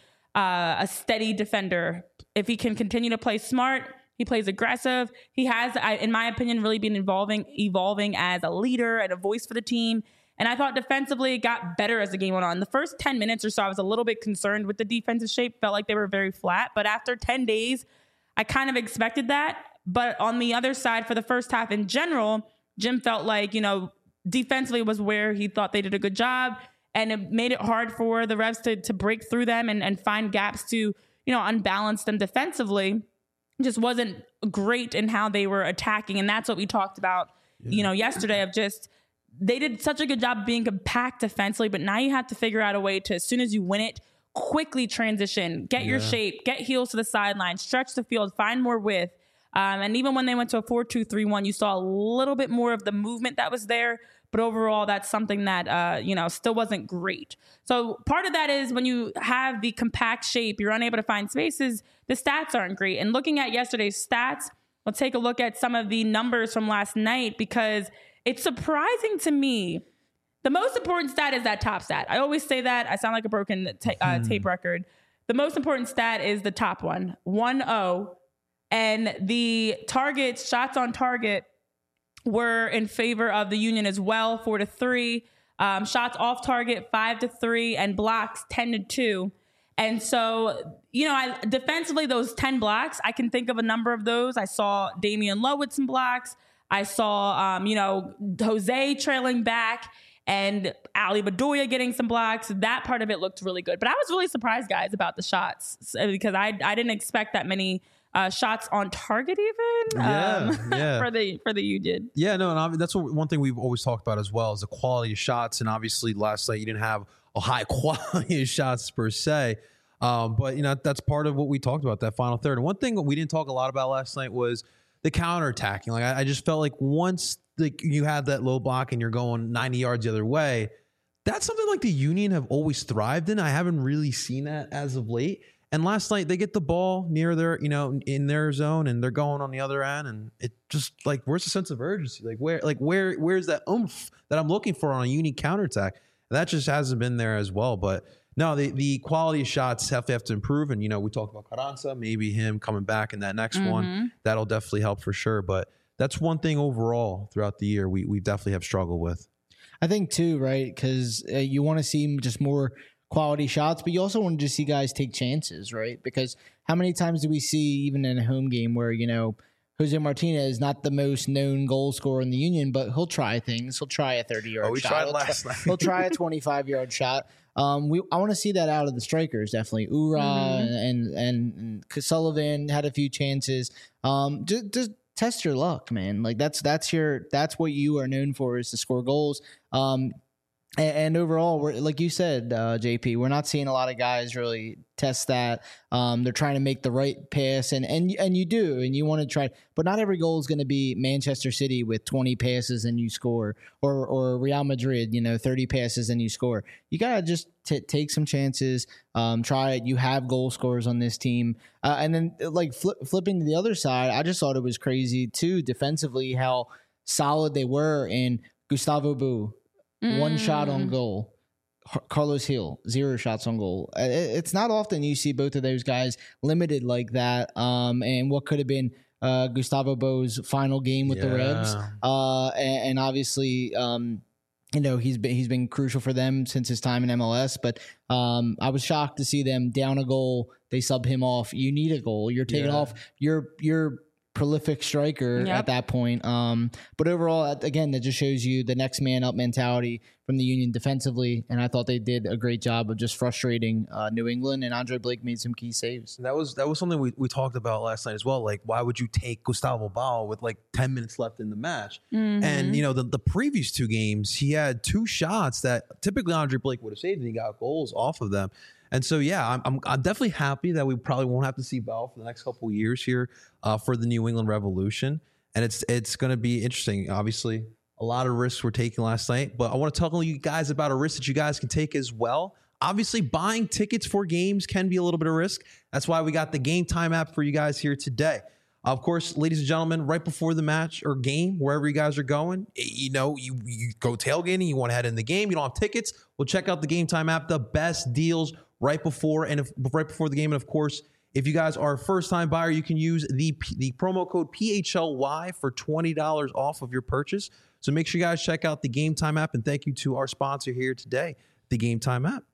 a steady defender. If he can continue to play smart, he plays aggressive. He has, in my opinion, really been evolving as a leader and a voice for the team. And I thought defensively it got better as the game went on. The first 10 minutes or so, I was a little bit concerned with the defensive shape. Felt like they were very flat. But after 10 days, I kind of expected that. But on the other side, for the first half in general, Jim felt like, you know, defensively was where he thought they did a good job, and it made it hard for the Revs to break through them and find gaps to, you know, unbalance them defensively. Just wasn't great in how they were attacking. And that's what we talked about, you know, yesterday, of just, they did such a good job of being compact defensively, but now you have to figure out a way to, as soon as you win it, quickly transition, get your shape, get heels to the sideline, stretch the field, find more width. And even when they went to a 4-2-3-1, you saw a little bit more of the movement that was there. But overall, that's something that, you know, still wasn't great. So part of that is when you have the compact shape, you're unable to find spaces, the stats aren't great. And looking at yesterday's stats, let's take a look at some of the numbers from last night, because it's surprising to me. The most important stat is that top stat. I always say that. I sound like a broken tape record. The most important stat is the top one, 1-0. And the targets, shots on target, were in favor of the Union as well, 4-3. Shots off target, 5-3, and blocks 10-2. And so, you know, defensively, those 10 blocks, I can think of a number of those. I saw Damian Lowe with some blocks. I saw, you know, Jose trailing back and Ali Bedoya getting some blocks. That part of it looked really good. But I was really surprised, guys, about the shots, because I didn't expect that many shots on target even for the Union. Yeah, no, and that's one thing we've always talked about as well, is the quality of shots. And obviously last night you didn't have a high quality of shots per se. But, you know, that's part of what we talked about, that final third. And one thing that we didn't talk a lot about last night was the counterattacking. Like I just felt like once you had that low block and you're going 90 yards the other way, that's something like the Union have always thrived in. I haven't really seen that as of late. And last night they get the ball near their, you know, in their zone, and they're going on the other end, and it just like, where's the sense of urgency? Where's that oomph that I'm looking for on a Union counterattack? That just hasn't been there as well. But no, the quality of shots have to improve. And, you know, we talked about Carranza, maybe him coming back in that next one. That'll definitely help for sure. But that's one thing overall throughout the year we definitely have struggled with. I think too, right? Because you want to see just more quality shots, but you also want to just see guys take chances, right? Because how many times do we see, even in a home game, where, you know, Jose Martinez is not the most known goal scorer in the Union, but he'll try things. He'll try a 30-yard shot. Tried last night. He'll try a 25-yard shot. I want to see that out of the strikers, definitely. Ura and Sullivan had a few chances. Just test your luck, man. Like that's what you are known for, is to score goals. And overall, we're, like you said, JP, we're not seeing a lot of guys really test that. They're trying to make the right pass, and you do, and you want to try, but not every goal is going to be Manchester City with 20 passes and you score, or Real Madrid, 30 passes and you score. You got to just take some chances, try it. You have goal scorers on this team. And then like flipping to the other side, I just thought it was crazy too, defensively, how solid they were. And Gustavo Bou, 1 shot on goal. Carlos Hill, 0 shots on goal. It's not often you see both of those guys limited like that. And what could have been Gustavo Bou's final game with the Revs. And obviously he's been crucial for them since his time in MLS. But I was shocked to see them down a goal. They sub him off. You need a goal. You're taking off your prolific striker at that point. But overall, again, that just shows you the next man up mentality from the Union defensively. And I thought they did a great job of just frustrating New England, and Andre Blake made some key saves. That was something we talked about last night as well. Like, why would you take Gustavo Bau with like 10 minutes left in the match? And, the previous 2 games, he had 2 shots that typically Andre Blake would have saved, and he got goals off of them. And so, I'm definitely happy that we probably won't have to see Bell for the next couple of years here for the New England Revolution. And it's going to be interesting. Obviously, a lot of risks were taken last night, but I want to talk to you guys about a risk that you guys can take as well. Obviously, buying tickets for games can be a little bit of risk. That's why we got the Game Time app for you guys here today. Of course, ladies and gentlemen, right before the match or game, wherever you guys are going, you go tailgating, you want to head in the game, you don't have tickets, well, check out the Game Time app. The best deals right before the game. And of course, if you guys are a first-time buyer, you can use the promo code PHLY for $20 off of your purchase. So make sure you guys check out the Game Time app. And thank you to our sponsor here today, the Game Time app.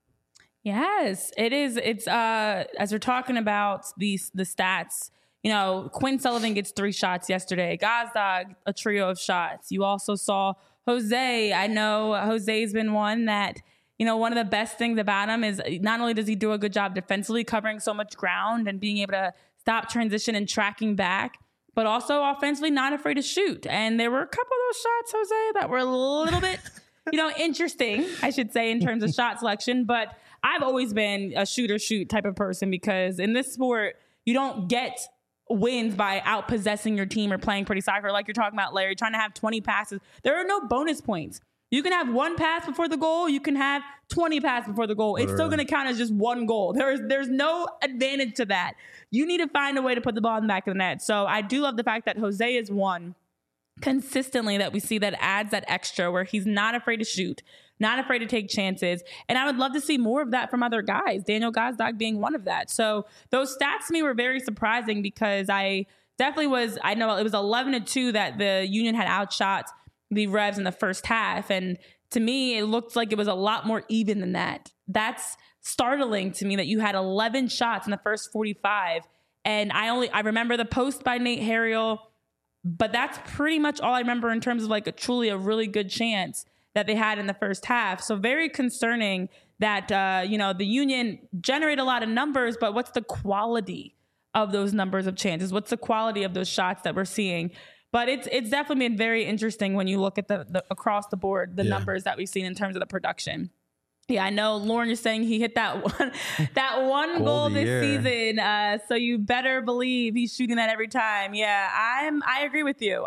Yes, it is. It's as we're talking about the stats. Quinn Sullivan gets 3 shots yesterday. Gazdag, a trio of shots. You also saw Jose. I know Jose's been one that, one of the best things about him is not only does he do a good job defensively, covering so much ground and being able to stop transition and tracking back, but also offensively not afraid to shoot. And there were a couple of those shots, Jose, that were a little bit, interesting, I should say, in terms of shot selection. But I've always been a shoot type of person, because in this sport, you don't get wins by out-possessing your team or playing pretty soccer like you're talking about, Larry, trying to have 20 passes. There are no bonus points. You can have 1 pass before the goal. You can have 20 passes before the goal. It's still going to count as just 1 goal. There's no advantage to that. You need to find a way to put the ball in the back of the net. So I do love the fact that Jose is one consistently that we see that adds that extra, where he's not afraid to shoot, not afraid to take chances. And I would love to see more of that from other guys, Daniel Gazdag being one of that. So those stats to me were very surprising, because I know it was 11-2 that the Union had outshot the Revs in the first half. And to me, it looked like it was a lot more even than that. That's startling to me, that you had 11 shots in the first 45. And I remember the post by Nate Harriel, but that's pretty much all I remember in terms of like a really good chance that they had in the first half. So very concerning that, the Union generate a lot of numbers, but what's the quality of those numbers of chances? What's the quality of those shots that we're seeing? But it's definitely been very interesting when you look at the across the board, the numbers that we've seen in terms of the production. Yeah, I know Lauren is saying he hit that one goal this season. So you better believe he's shooting that every time. Yeah, I agree with you.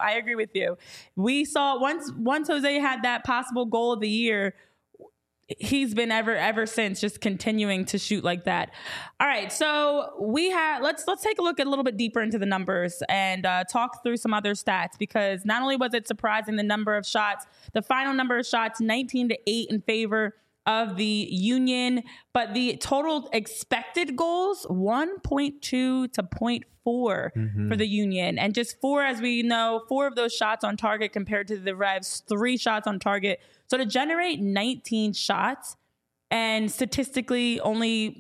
We saw once Jose had that possible goal of the year, he's been ever since just continuing to shoot like that. All right, so let's take a look a little bit deeper into the numbers and talk through some other stats, because not only was it surprising the number of shots, the final number of shots 19-8 in favor of the Union, but the total expected goals 1.2 to 0.4 for the Union, and just 4, as we know, 4 of those shots on target compared to the Revs 3 shots on target. So to generate 19 shots and statistically only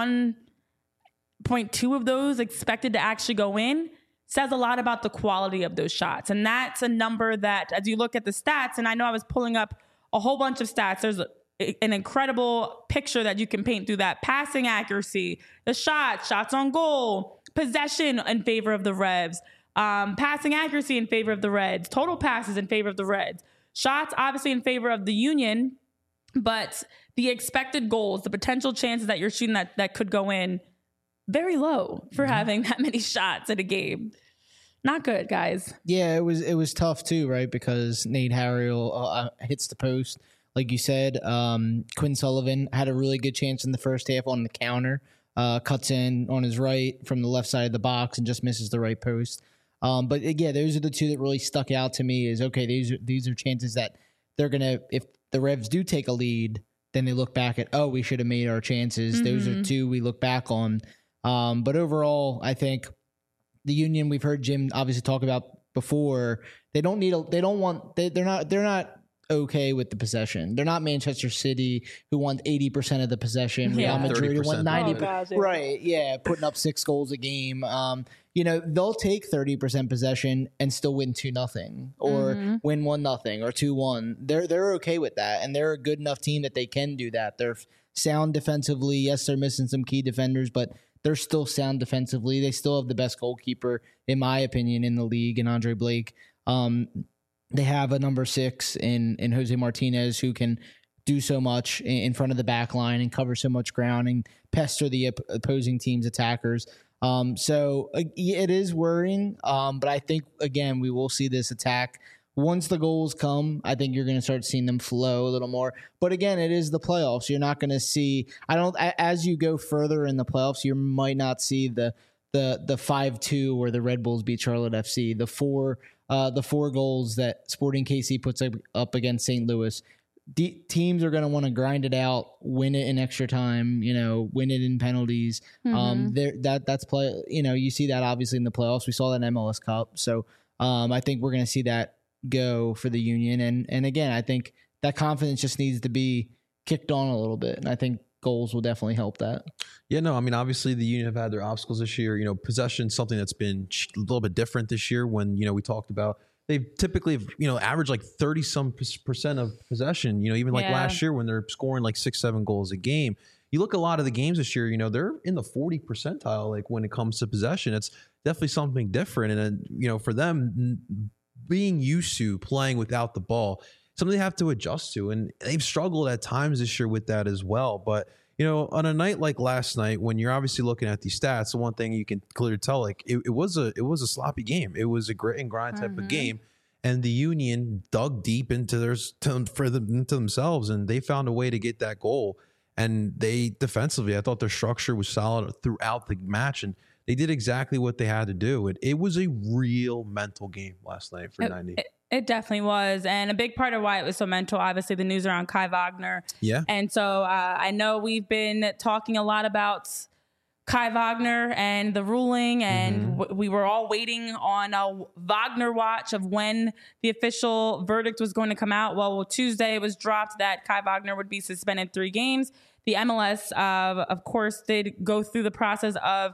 1.2 of those expected to actually go in says a lot about the quality of those shots. And that's a number that, as you look at the stats, and I know I was pulling up a whole bunch of stats, there's an incredible picture that you can paint through that. Passing accuracy, the shots on goal, possession in favor of the Revs, passing accuracy in favor of the Reds, total passes in favor of the Reds, shots obviously in favor of the Union, but the expected goals, the potential chances that you're shooting that could go in, very low for having that many shots in a game. Not good, guys. Yeah, it was tough too, right? Because Nate Harriel hits the post. Like you said, Quinn Sullivan had a really good chance in the first half on the counter, cuts in on his right from the left side of the box and just misses the right post. But yeah, those are the 2 that really stuck out to me. Is okay, these are chances that they're gonna, if the Revs do take a lead, then they look back at, we should have made our chances. Those are 2 we look back on. But overall, I think the Union, we've heard Jim obviously talk about before. They're not okay with the possession. They're not Manchester City, who want 80% of the possession. Real Madrid, who want 90%. Oh, gosh, yeah. Right, yeah, putting up 6 goals a game. They'll take 30% possession and still win 2-0 or win 1-0 or 2-1. They're okay with that, and they're a good enough team that they can do that. They're sound defensively. Yes, they're missing some key defenders, but they're still sound defensively. They still have the best goalkeeper, in my opinion, in the league, in Andre Blake. They have a number 6 in Jose Martinez, who can do so much in front of the back line and cover so much ground and pester the opposing team's attackers. So it is worrying, but I think, again, we will see this attack. Once the goals come, I think you're going to start seeing them flow a little more. But again, it is the playoffs. You're not going to see, as you go further in the playoffs, you might not see the 5-2 where the Red Bulls beat Charlotte FC, the four goals that Sporting KC puts up against St. Louis. Teams are going to want to grind it out, win it in extra time, win it in penalties. That's play. You see that obviously in the playoffs. We saw that in MLS Cup. So I think we're going to see that go for the Union. And again, I think that confidence just needs to be kicked on a little bit. And I think goals will definitely help that. Yeah, no, I mean, obviously the Union have had their obstacles this year. Possession, something that's been a little bit different this year when, we talked about they've typically, averaged like 30% of possession, even like last year when they're scoring like 6-7 goals a game. You look at a lot of the games this year, they're in the 40 percentile, like when it comes to possession. It's definitely something different. And then, for them being used to playing without the ball, something they have to adjust to. And they've struggled at times this year with that as well. But, on a night like last night, when you're obviously looking at these stats, the one thing you can clearly tell, like it was a sloppy game. It was a grit and grind type of game. And the Union dug deep into themselves, and they found a way to get that goal. And they defensively, I thought their structure was solid throughout the match, and they did exactly what they had to do. It was a real mental game last night for 90. It definitely was. And a big part of why it was so mental, obviously, the news around Kai Wagner. Yeah. And so I know we've been talking a lot about Kai Wagner and the ruling, and we were all waiting on a Wagner watch of when the official verdict was going to come out. Well, Tuesday it was dropped that Kai Wagner would be suspended 3 games. The MLS, of course, did go through the process of,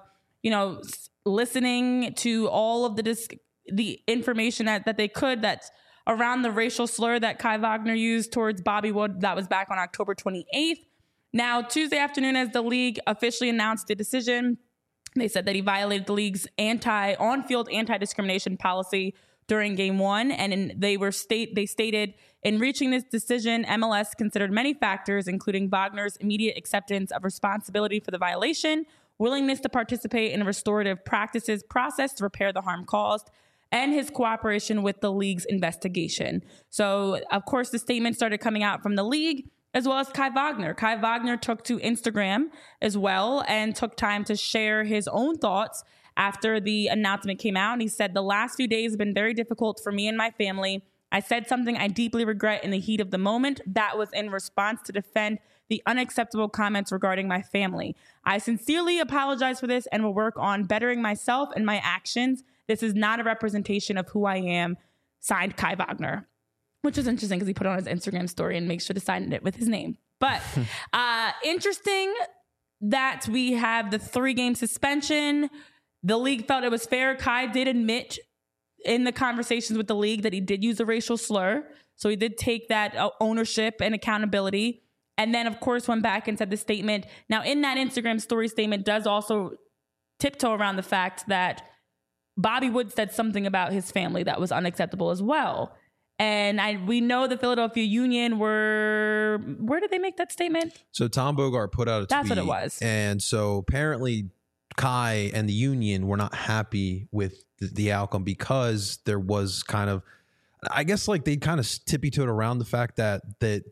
listening to all of the information that they could that's around the racial slur that Kai Wagner used towards Bobby Wood. That was back on October 28th. Now, Tuesday afternoon, as the league officially announced the decision, they said that he violated the league's on-field anti-discrimination policy during Game 1, and they stated, in reaching this decision, MLS considered many factors, including Wagner's immediate acceptance of responsibility for the violation, willingness to participate in a restorative practices process to repair the harm caused, and his cooperation with the league's investigation. So, of course, the statement started coming out from the league, as well as Kai Wagner. Kai Wagner took to Instagram as well and took time to share his own thoughts after the announcement came out. And he said, "The last few days have been very difficult for me and my family. I said something I deeply regret in the heat of the moment. That was in response to defend the unacceptable comments regarding my family. I sincerely apologize for this and will work on bettering myself and my actions. This is not a representation of who I am." Signed, Kai Wagner. Which is interesting because he put it on his Instagram story and makes sure to sign it with his name. But interesting that we have the 3-game suspension. The league felt it was fair. Kai did admit in the conversations with the league that he did use a racial slur. So he did take that ownership and accountability. And then, of course, went back and said the statement. Now, in that Instagram story statement does also tiptoe around the fact that Bobby Wood said something about his family that was unacceptable as well. And we know the Philadelphia Union where did they make that statement? So Tom Bogart put out a tweet. That's what it was. And so apparently Kai and the Union were not happy with the outcome because there was kind of, I guess like they kind of tippy-toed around the fact that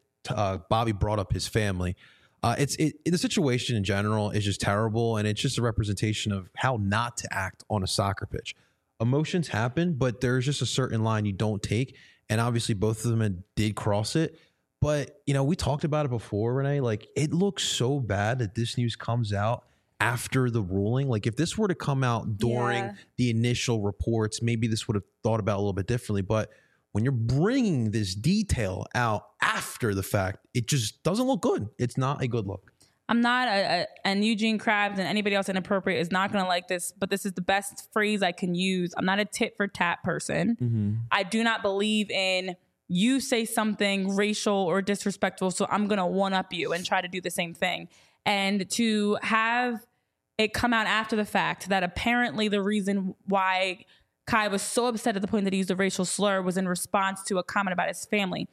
Bobby brought up his family. The situation in general is just terrible, and it's just a representation of how not to act on a soccer pitch. Emotions happen, but there's just a certain line you don't take. And obviously both of them did cross it. But, we talked about it before, Renee. Like, it looks so bad that this news comes out after the ruling. Like, if this were to come out during the initial reports, maybe this would have thought about it a little bit differently. But when you're bringing this detail out after the fact, it just doesn't look good. It's not a good look. I'm not and Eugene Krabs and anybody else inappropriate is not going to like this, but this is the best phrase I can use. I'm not a tit for tat person. I do not believe in you say something racial or disrespectful, so I'm going to one up you and try to do the same thing. And to have it come out after the fact that apparently the reason why Kai was so upset at the point that he used a racial slur was in response to a comment about his family.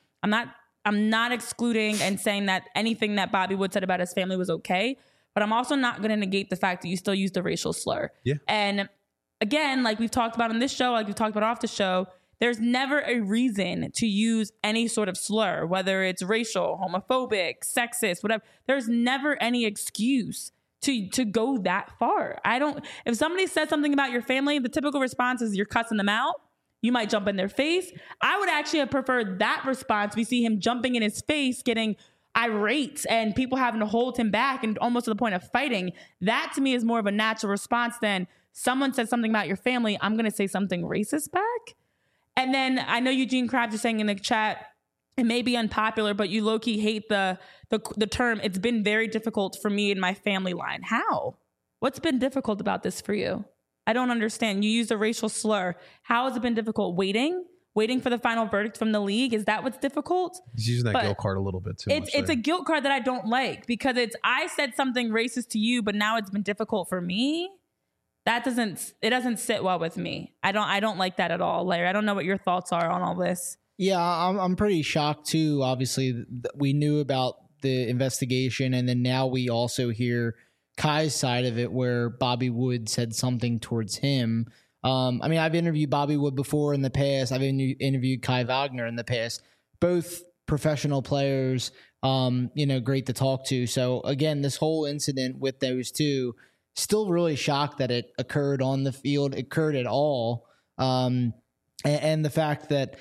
I'm not excluding and saying that anything that Bobby Wood said about his family was okay, but I'm also not going to negate the fact that you still used a racial slur. Yeah. And again, like we've talked about on this show, like we've talked about off the show, there's never a reason to use any sort of slur, whether it's racial, homophobic, sexist, whatever. There's never any excuse to go that far. If somebody says something about your family, the typical response is you're cussing them out. You might jump in their face. I would actually have preferred that response. We see him jumping in his face, getting irate, and people having to hold him back and almost to the point of fighting. That to me is more of a natural response than someone said something about your family, I'm going to say something racist back. And then I know Eugene Krabs is saying in the chat, it may be unpopular, but you low-key hate the term, it's been very difficult for me and my family line. How? What's been difficult about this for you? I don't understand. You used a racial slur. How has it been difficult? Waiting for the final verdict from the league? Is that what's difficult? He's using that guilt card a little bit too much. It's a guilt card that I don't like because I said something racist to you, but now it's been difficult for me. It doesn't sit well with me. I don't like that at all, Larry. I don't know what your thoughts are on all this. Yeah, I'm pretty shocked too. Obviously, we knew about the investigation, and then now we also hear Kai's side of it, where Bobby Wood said something towards him. I mean, I've interviewed Bobby Wood before in the past. I've interviewed Kai Wagner in the past. Both professional players, great to talk to. So again, this whole incident with those two, still really shocked that it occurred on the field, occurred at all. And the fact that,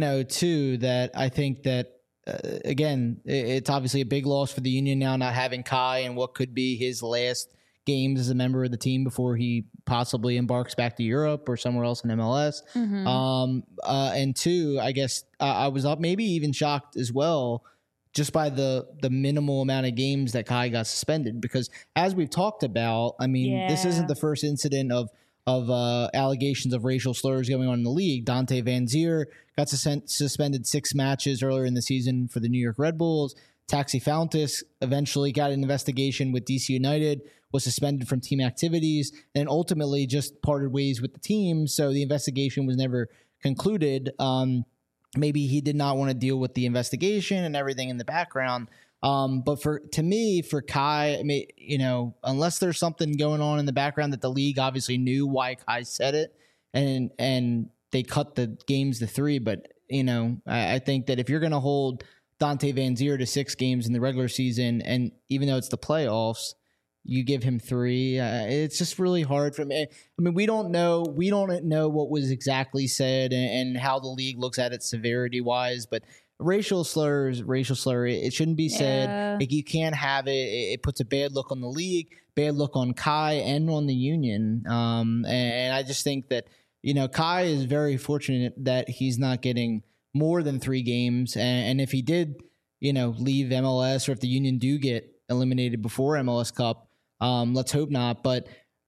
too, that I think that, again, it's obviously a big loss for the Union now, not having Kai and what could be his last games as a member of the team before he possibly embarks back to Europe or somewhere else in MLS. And two, I guess I was up maybe even shocked as well just by the minimal amount of games that Kai got suspended, because as we've talked about, I mean, this isn't the first incident of allegations of racial slurs going on in the league. Dante Van Zier got suspended 6 matches earlier in the season for the New York Red Bulls. Taxi Fountas eventually got an investigation with DC United, was suspended from team activities, and ultimately just parted ways with the team. So the investigation was never concluded. Maybe he did not want to deal with the investigation and everything in the background. But for Kai, I mean, unless there's something going on in the background that the league obviously knew why Kai said it, and they cut the games to 3. But I think that if you're going to hold Dante Van Zier to 6 games in the regular season, and even though it's the playoffs, you give him 3. It's just really hard for me. I mean, we don't know what was exactly said and how the league looks at it severity wise, but racial slur, it shouldn't be said. Like, you can't have it. It puts a bad look on the league, bad look on Kai and on the Union. And I just think that, Kai is very fortunate that he's not getting more than 3 games. And if he did, leave MLS, or if the Union do get eliminated before MLS Cup, let's hope not. But,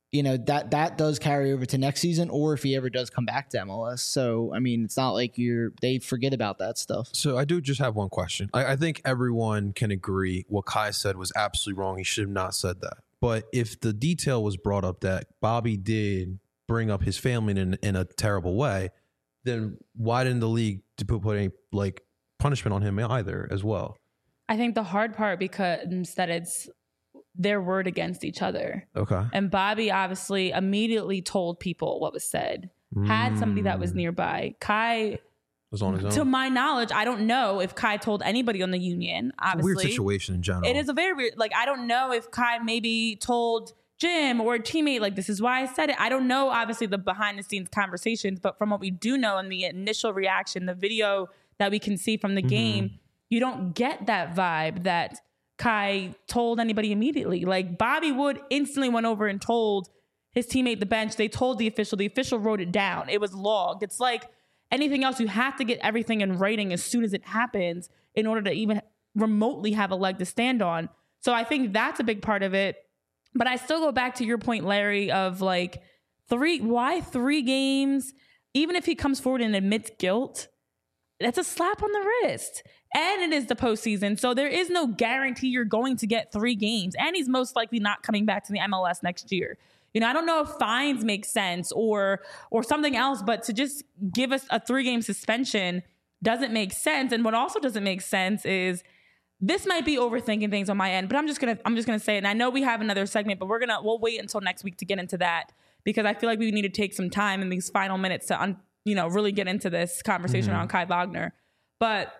that does carry over to next season, or if he ever does come back to MLS. So, I mean, it's not like they forget about that stuff. So I do just have one question. I think everyone can agree what Kai said was absolutely wrong. He should have not said that. But if the detail was brought up that Bobby did bring up his family in a terrible way, then why didn't the league put any punishment on him either as well? I think the hard part becomes that it's their word against each other. Okay. And Bobby obviously immediately told people what was said, had somebody that was nearby. Kai was on his own. To my knowledge, I don't know if Kai told anybody on the Union. Obviously, weird situation in general. It is a very weird. I don't know if Kai maybe told Jim or a teammate, this is why I said it. I don't know, obviously, the behind the scenes conversations, but from what we do know in the initial reaction, the video that we can see from the game, you don't get that vibe that Kai told anybody immediately. Bobby Wood instantly went over and told his teammate, the bench. They told the official wrote it down. It was logged. It's like anything else, you have to get everything in writing as soon as it happens in order to even remotely have a leg to stand on. So I think that's a big part of it. But I still go back to your point, Larry, of like why 3 games? Even if he comes forward and admits guilt, that's a slap on the wrist. And it is the postseason. So there is no guarantee you're going to get 3 games. And he's most likely not coming back to the MLS next year. You know, I don't know if fines make sense or something else, but to just give us a 3-game suspension doesn't make sense. And what also doesn't make sense is this might be overthinking things on my end, but I'm just gonna say it. And I know we have another segment, but we'll wait until next week to get into that, because I feel like we need to take some time in these final minutes to really get into this conversation around Kai Wagner. But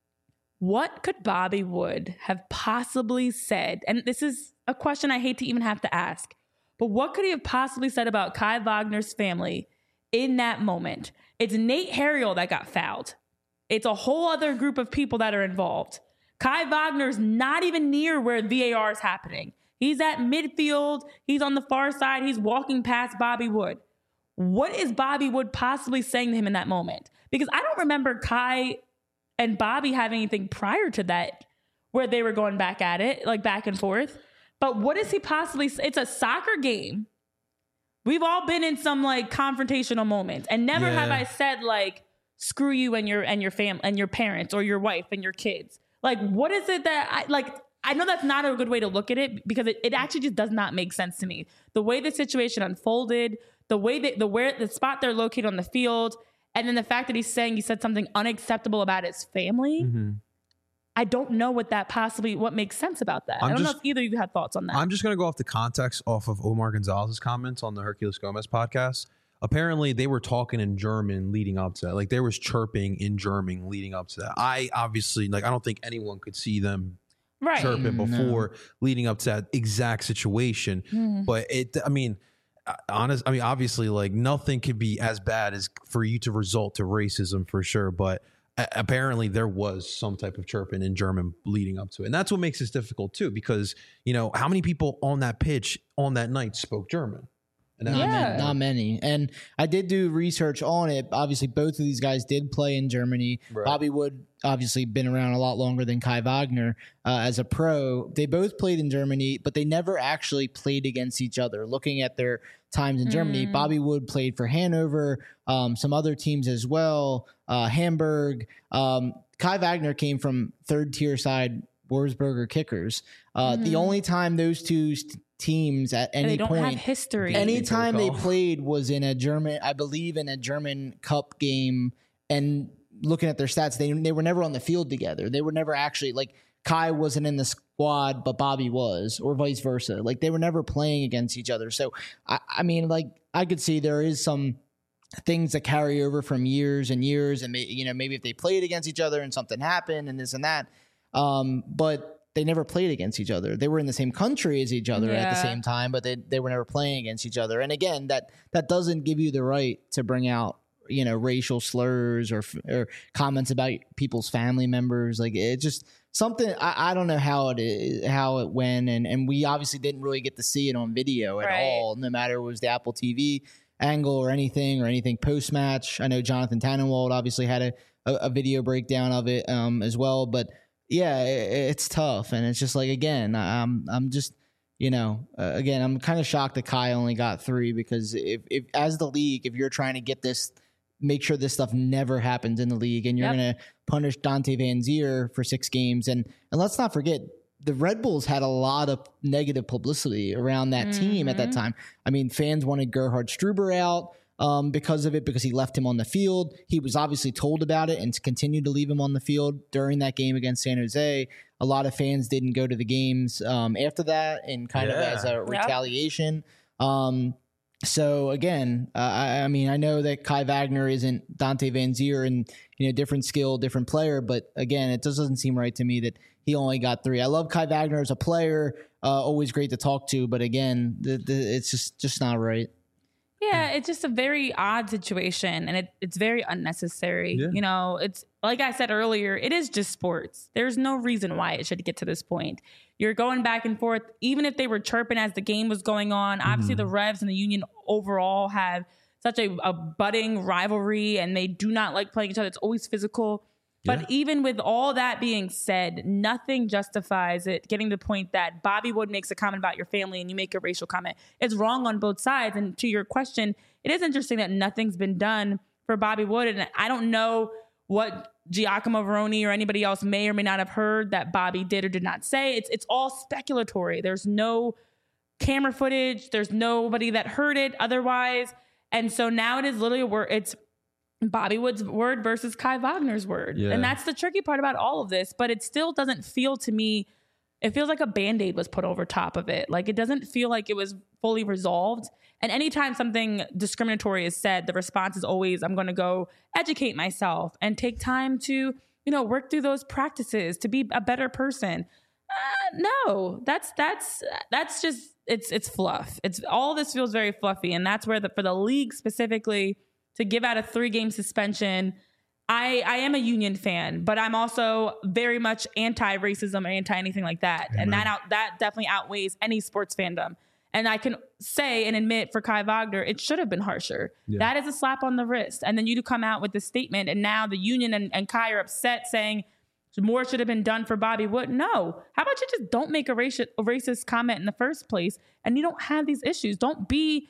what could Bobby Wood have possibly said? And this is a question I hate to even have to ask, but what could he have possibly said about Kai Wagner's family in that moment? It's Nate Harriel that got fouled. It's a whole other group of people that are involved. Kai Wagner's not even near where VAR is happening. He's at midfield. He's on the far side. He's walking past Bobby Wood. What is Bobby Wood possibly saying to him in that moment? Because I don't remember Kai and Bobby having anything prior to that where they were going back at it, like back and forth. But what is he possibly say? It's a soccer game. We've all been in some like confrontational moments, and never have I said like, screw you and your family and your parents or your wife and your kids. Like, what is it that I know that's not a good way to look at it, because it actually just does not make sense to me. The way the situation unfolded, the spot they're located on the field, and then the fact that he's saying he said something unacceptable about his family. Mm-hmm. I don't know what makes sense about that. I don't know if either of you had thoughts on that. I'm just going to go off the context off of Omar Gonzalez's comments on the Herculez Gomez podcast. Apparently, they were talking in German leading up to that. Like, there was chirping in German leading up to that. I obviously, I don't think anyone could see them chirping before leading up to that exact situation. Mm. But obviously, like, nothing could be as bad as for you to result to racism for sure. But apparently there was some type of chirping in German leading up to it. And that's what makes this difficult too, because, how many people on that pitch on that night spoke German? Not many. And I did do research on it. Obviously, both of these guys did play in Germany. Right. Bobby Wood obviously been around a lot longer than Kai Wagner as a pro. They both played in Germany, but they never actually played against each other. Looking at their times in Germany, Bobby Wood played for Hanover, some other teams as well, Hamburg. Kai Wagner came from third-tier side Wolfsburger Kickers. The only time those two teams at any point, have history. Anytime they played was in a German Cup game, and looking at their stats, they were never on the field together. They were never actually, like, Kai wasn't in the squad, but Bobby was, or vice versa. Like, they were never playing against each other. So, I could see there is some things that carry over from years and years, and maybe if they played against each other and something happened and this and that, but they never played against each other. They were in the same country as each other at the same time, but they were never playing against each other. And again, that doesn't give you the right to bring out, racial slurs or comments about people's family members. Like, it just something, I don't know how it went. And we obviously didn't really get to see it on video at all, no matter it was the Apple TV angle or anything post-match. I know Jonathan Tannenwald obviously had a video breakdown of it as well, but yeah, it's tough. And it's just like, again, I'm just, again, I'm kind of shocked that Kai only got 3, because if as the league, if you're trying to get this, make sure this stuff never happens in the league, and you're going to punish Dante Van Zier for 6 games. And let's not forget, the Red Bulls had a lot of negative publicity around that team at that time. I mean, fans wanted Gerhard Struber out because of it, because he left him on the field. He was obviously told about it and continued to leave him on the field during that game against San Jose. A lot of fans didn't go to the games after that, and kind of as a retaliation. So again, I know that Kai Wagner isn't Dante Van Zier, and different skill, different player, but again, it just doesn't seem right to me that he only got 3. I love Kai Wagner as a player, always great to talk to, but again, it's just not right. Yeah, it's just a very odd situation, and it's very unnecessary. Yeah. It's like I said earlier, it is just sports. There's no reason why it should get to this point. You're going back and forth, even if they were chirping as the game was going on. Obviously, the Revs and the Union overall have such a budding rivalry, and they do not like playing each other. It's always physical. But even with all that being said, nothing justifies it getting to the point that Bobby Wood makes a comment about your family and you make a racial comment. It's wrong on both sides. And to your question, it is interesting that nothing's been done for Bobby Wood. And I don't know what Giacomo Veroni or anybody else may or may not have heard that Bobby did or did not say. It's all speculatory. There's no camera footage. There's nobody that heard it otherwise. And so now it is literally it's Bobby Wood's word versus Kai Wagner's word. Yeah. And that's the tricky part about all of this. But it still doesn't feel to me, it feels like a Band-Aid was put over top of it. Like, it doesn't feel like it was fully resolved. And anytime something discriminatory is said, the response is always, I'm going to go educate myself and take time to, work through those practices to be a better person. No, that's just, it's fluff. It's all this feels very fluffy. And that's where for the league specifically, to give out a 3-game suspension, I am a Union fan, but I'm also very much anti-racism or anti-anything like that. Amen. And that definitely outweighs any sports fandom. And I can say and admit for Kai Wagner, it should have been harsher. Yeah. That is a slap on the wrist. And then you come out with this statement, and now the Union and Kai are upset saying more should have been done for Bobby Wood. No. How about you just don't make a racist comment in the first place, and you don't have these issues. Don't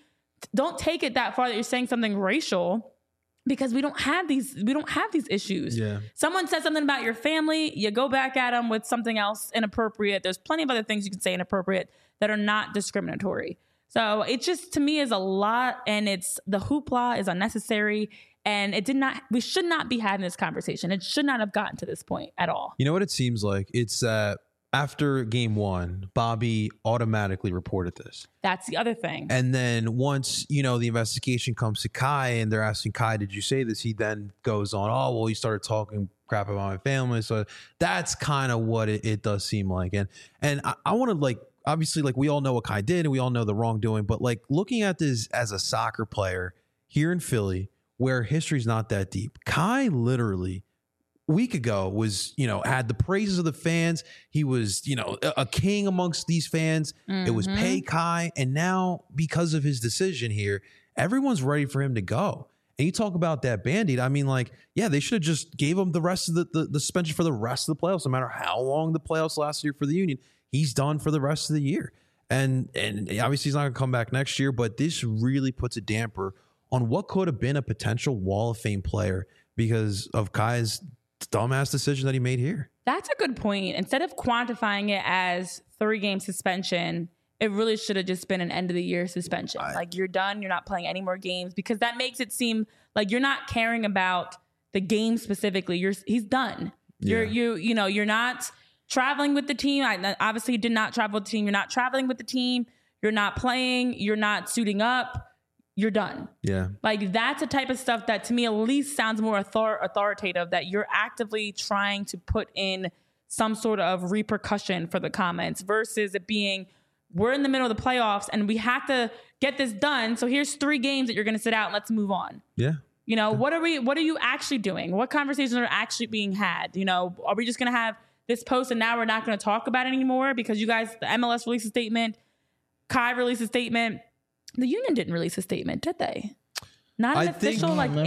take it that far that you're saying something racial, because we don't have these issues. Yeah. Someone says something about your family, you go back at them with something else inappropriate. There's plenty of other things you can say inappropriate that are not discriminatory. So it just, to me, is a lot, and the hoopla is unnecessary, and we should not be having this conversation. It should not have gotten to this point at all. You know what it seems like? It's that after game 1, Bobby automatically reported this. That's the other thing. And then once, the investigation comes to Kai and they're asking Kai, did you say this? He then goes on, oh, well, he started talking crap about my family. So that's kind of what it does seem like. And I want to, obviously, we all know what Kai did and we all know the wrongdoing, but looking at this as a soccer player here in Philly, where history's not that deep, Kai literally week ago was, had the praises of the fans. He was, a king amongst these fans. Mm-hmm. It was pay Kai. And now, because of his decision here, everyone's ready for him to go. And you talk about that Band-Aid. I mean, they should have just gave him the rest of the suspension for the rest of the playoffs. No matter how long the playoffs last year for the Union, he's done for the rest of the year. And obviously he's not going to come back next year, but this really puts a damper on what could have been a potential Wall of Fame player because of Kai's dumbass decision that he made here. That's a good point. Instead of quantifying it as 3-game suspension, it really should have just been an end of the year suspension. You're done. You're not playing any more games, because that makes it seem like you're not caring about the game specifically. He's done. Yeah. You're not traveling with the team. Obviously, you did not travel with the team. You're not traveling with the team. You're not playing. You're not suiting up. You're done. Yeah. That's a type of stuff that to me at least sounds more authoritative, that you're actively trying to put in some sort of repercussion for the comments, versus it being, we're in the middle of the playoffs and we have to get this done. So here's 3 games that you're going to sit out and let's move on. Yeah. What are you actually doing? What conversations are actually being had? Are we just going to have this post and now we're not going to talk about it anymore because you guys, the MLS released a statement, Kai released a statement. The Union didn't release a statement, did they? Not an official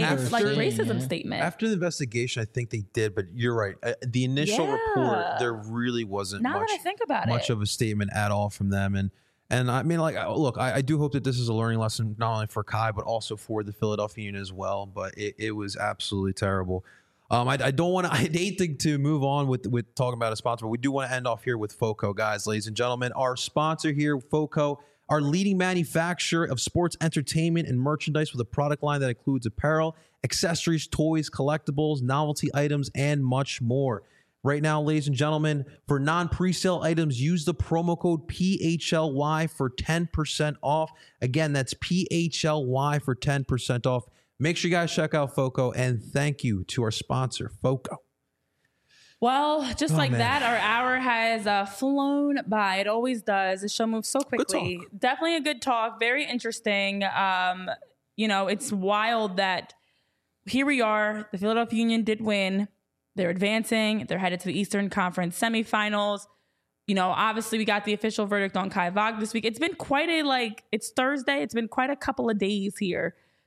racism statement. After the investigation, I think they did, but you're right. The initial report, there really wasn't much of a statement at all from them. And I mean, look, I do hope that this is a learning lesson, not only for Kai, but also for the Philadelphia Union as well. But it was absolutely terrible. I hate to move on with talking about a sponsor, but we do want to end off here with FOCO, guys, ladies and gentlemen. Our sponsor here, FOCO, our leading manufacturer of sports entertainment and merchandise with a product line that includes apparel, accessories, toys, collectibles, novelty items, and much more. Right now, ladies and gentlemen, for non-presale items, use the promo code PHLY for 10% off. Again, that's PHLY for 10% off. Make sure you guys check out FOCO, and thank you to our sponsor, FOCO. Well, just that, our hour has flown by. It always does. The show moves so quickly. Definitely a good talk. Very interesting. It's wild that here we are. The Philadelphia Union did win. They're advancing. They're headed to the Eastern Conference semifinals. Obviously we got the official verdict on Kai Wagner this week. It's been quite it's Thursday. It's been quite a couple of days here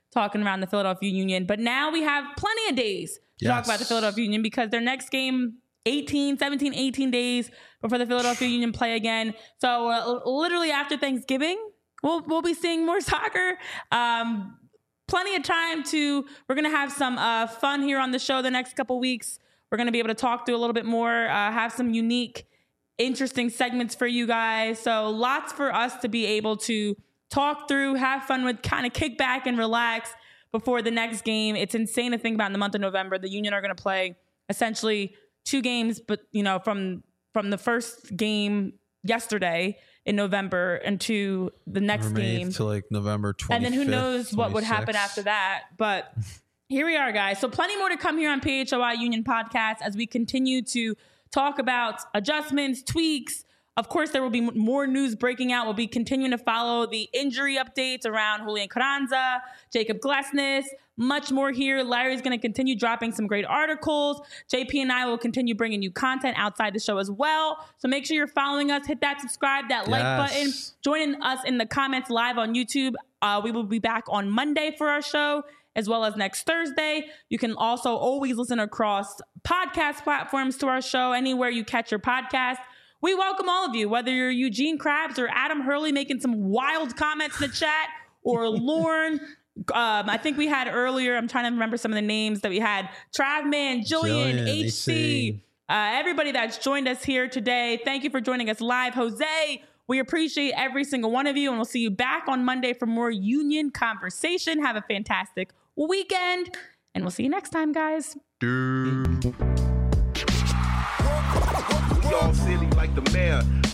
talking around the Philadelphia Union. But now we have plenty of days to talk about the Philadelphia Union because their next game, 18 days before the Philadelphia Union play again. So literally after Thanksgiving, we'll be seeing more soccer. Plenty of time we're going to have some fun here on the show the next couple weeks. We're going to be able to talk through a little bit more, have some unique, interesting segments for you guys. So lots for us to be able to talk through, have fun with, kind of kick back and relax before the next game. It's insane to think about in the month of November. The Union are going to play essentially 2 games, but from the first game yesterday in November into the next game to like November 25th, and then who knows what 26th. would happen after that. But here we are, guys. So plenty more to come here on PHLY Union Podcast as we continue to talk about adjustments, tweaks. Of course, there will be more news breaking out. We'll be continuing to follow the injury updates around Julian Carranza, Jacob Glesnes, much more here. Larry's going to continue dropping some great articles. JP and I will continue bringing you content outside the show as well. So make sure you're following us. Hit that subscribe, that like button. Joining us in the comments live on YouTube. We will be back on Monday for our show, as well as next Thursday. You can also always listen across podcast platforms to our show, anywhere you catch your podcast. We welcome all of you, whether you're Eugene Krabs or Adam Hurley making some wild comments in the chat, or Lauren. I think we had earlier, I'm trying to remember some of the names that we had. Travman, Jillian, HC, everybody that's joined us here today. Thank you for joining us live. Jose, we appreciate every single one of you, and we'll see you back on Monday for more Union conversation. Have a fantastic weekend, and we'll see you next time, guys. We all silly like the mayor.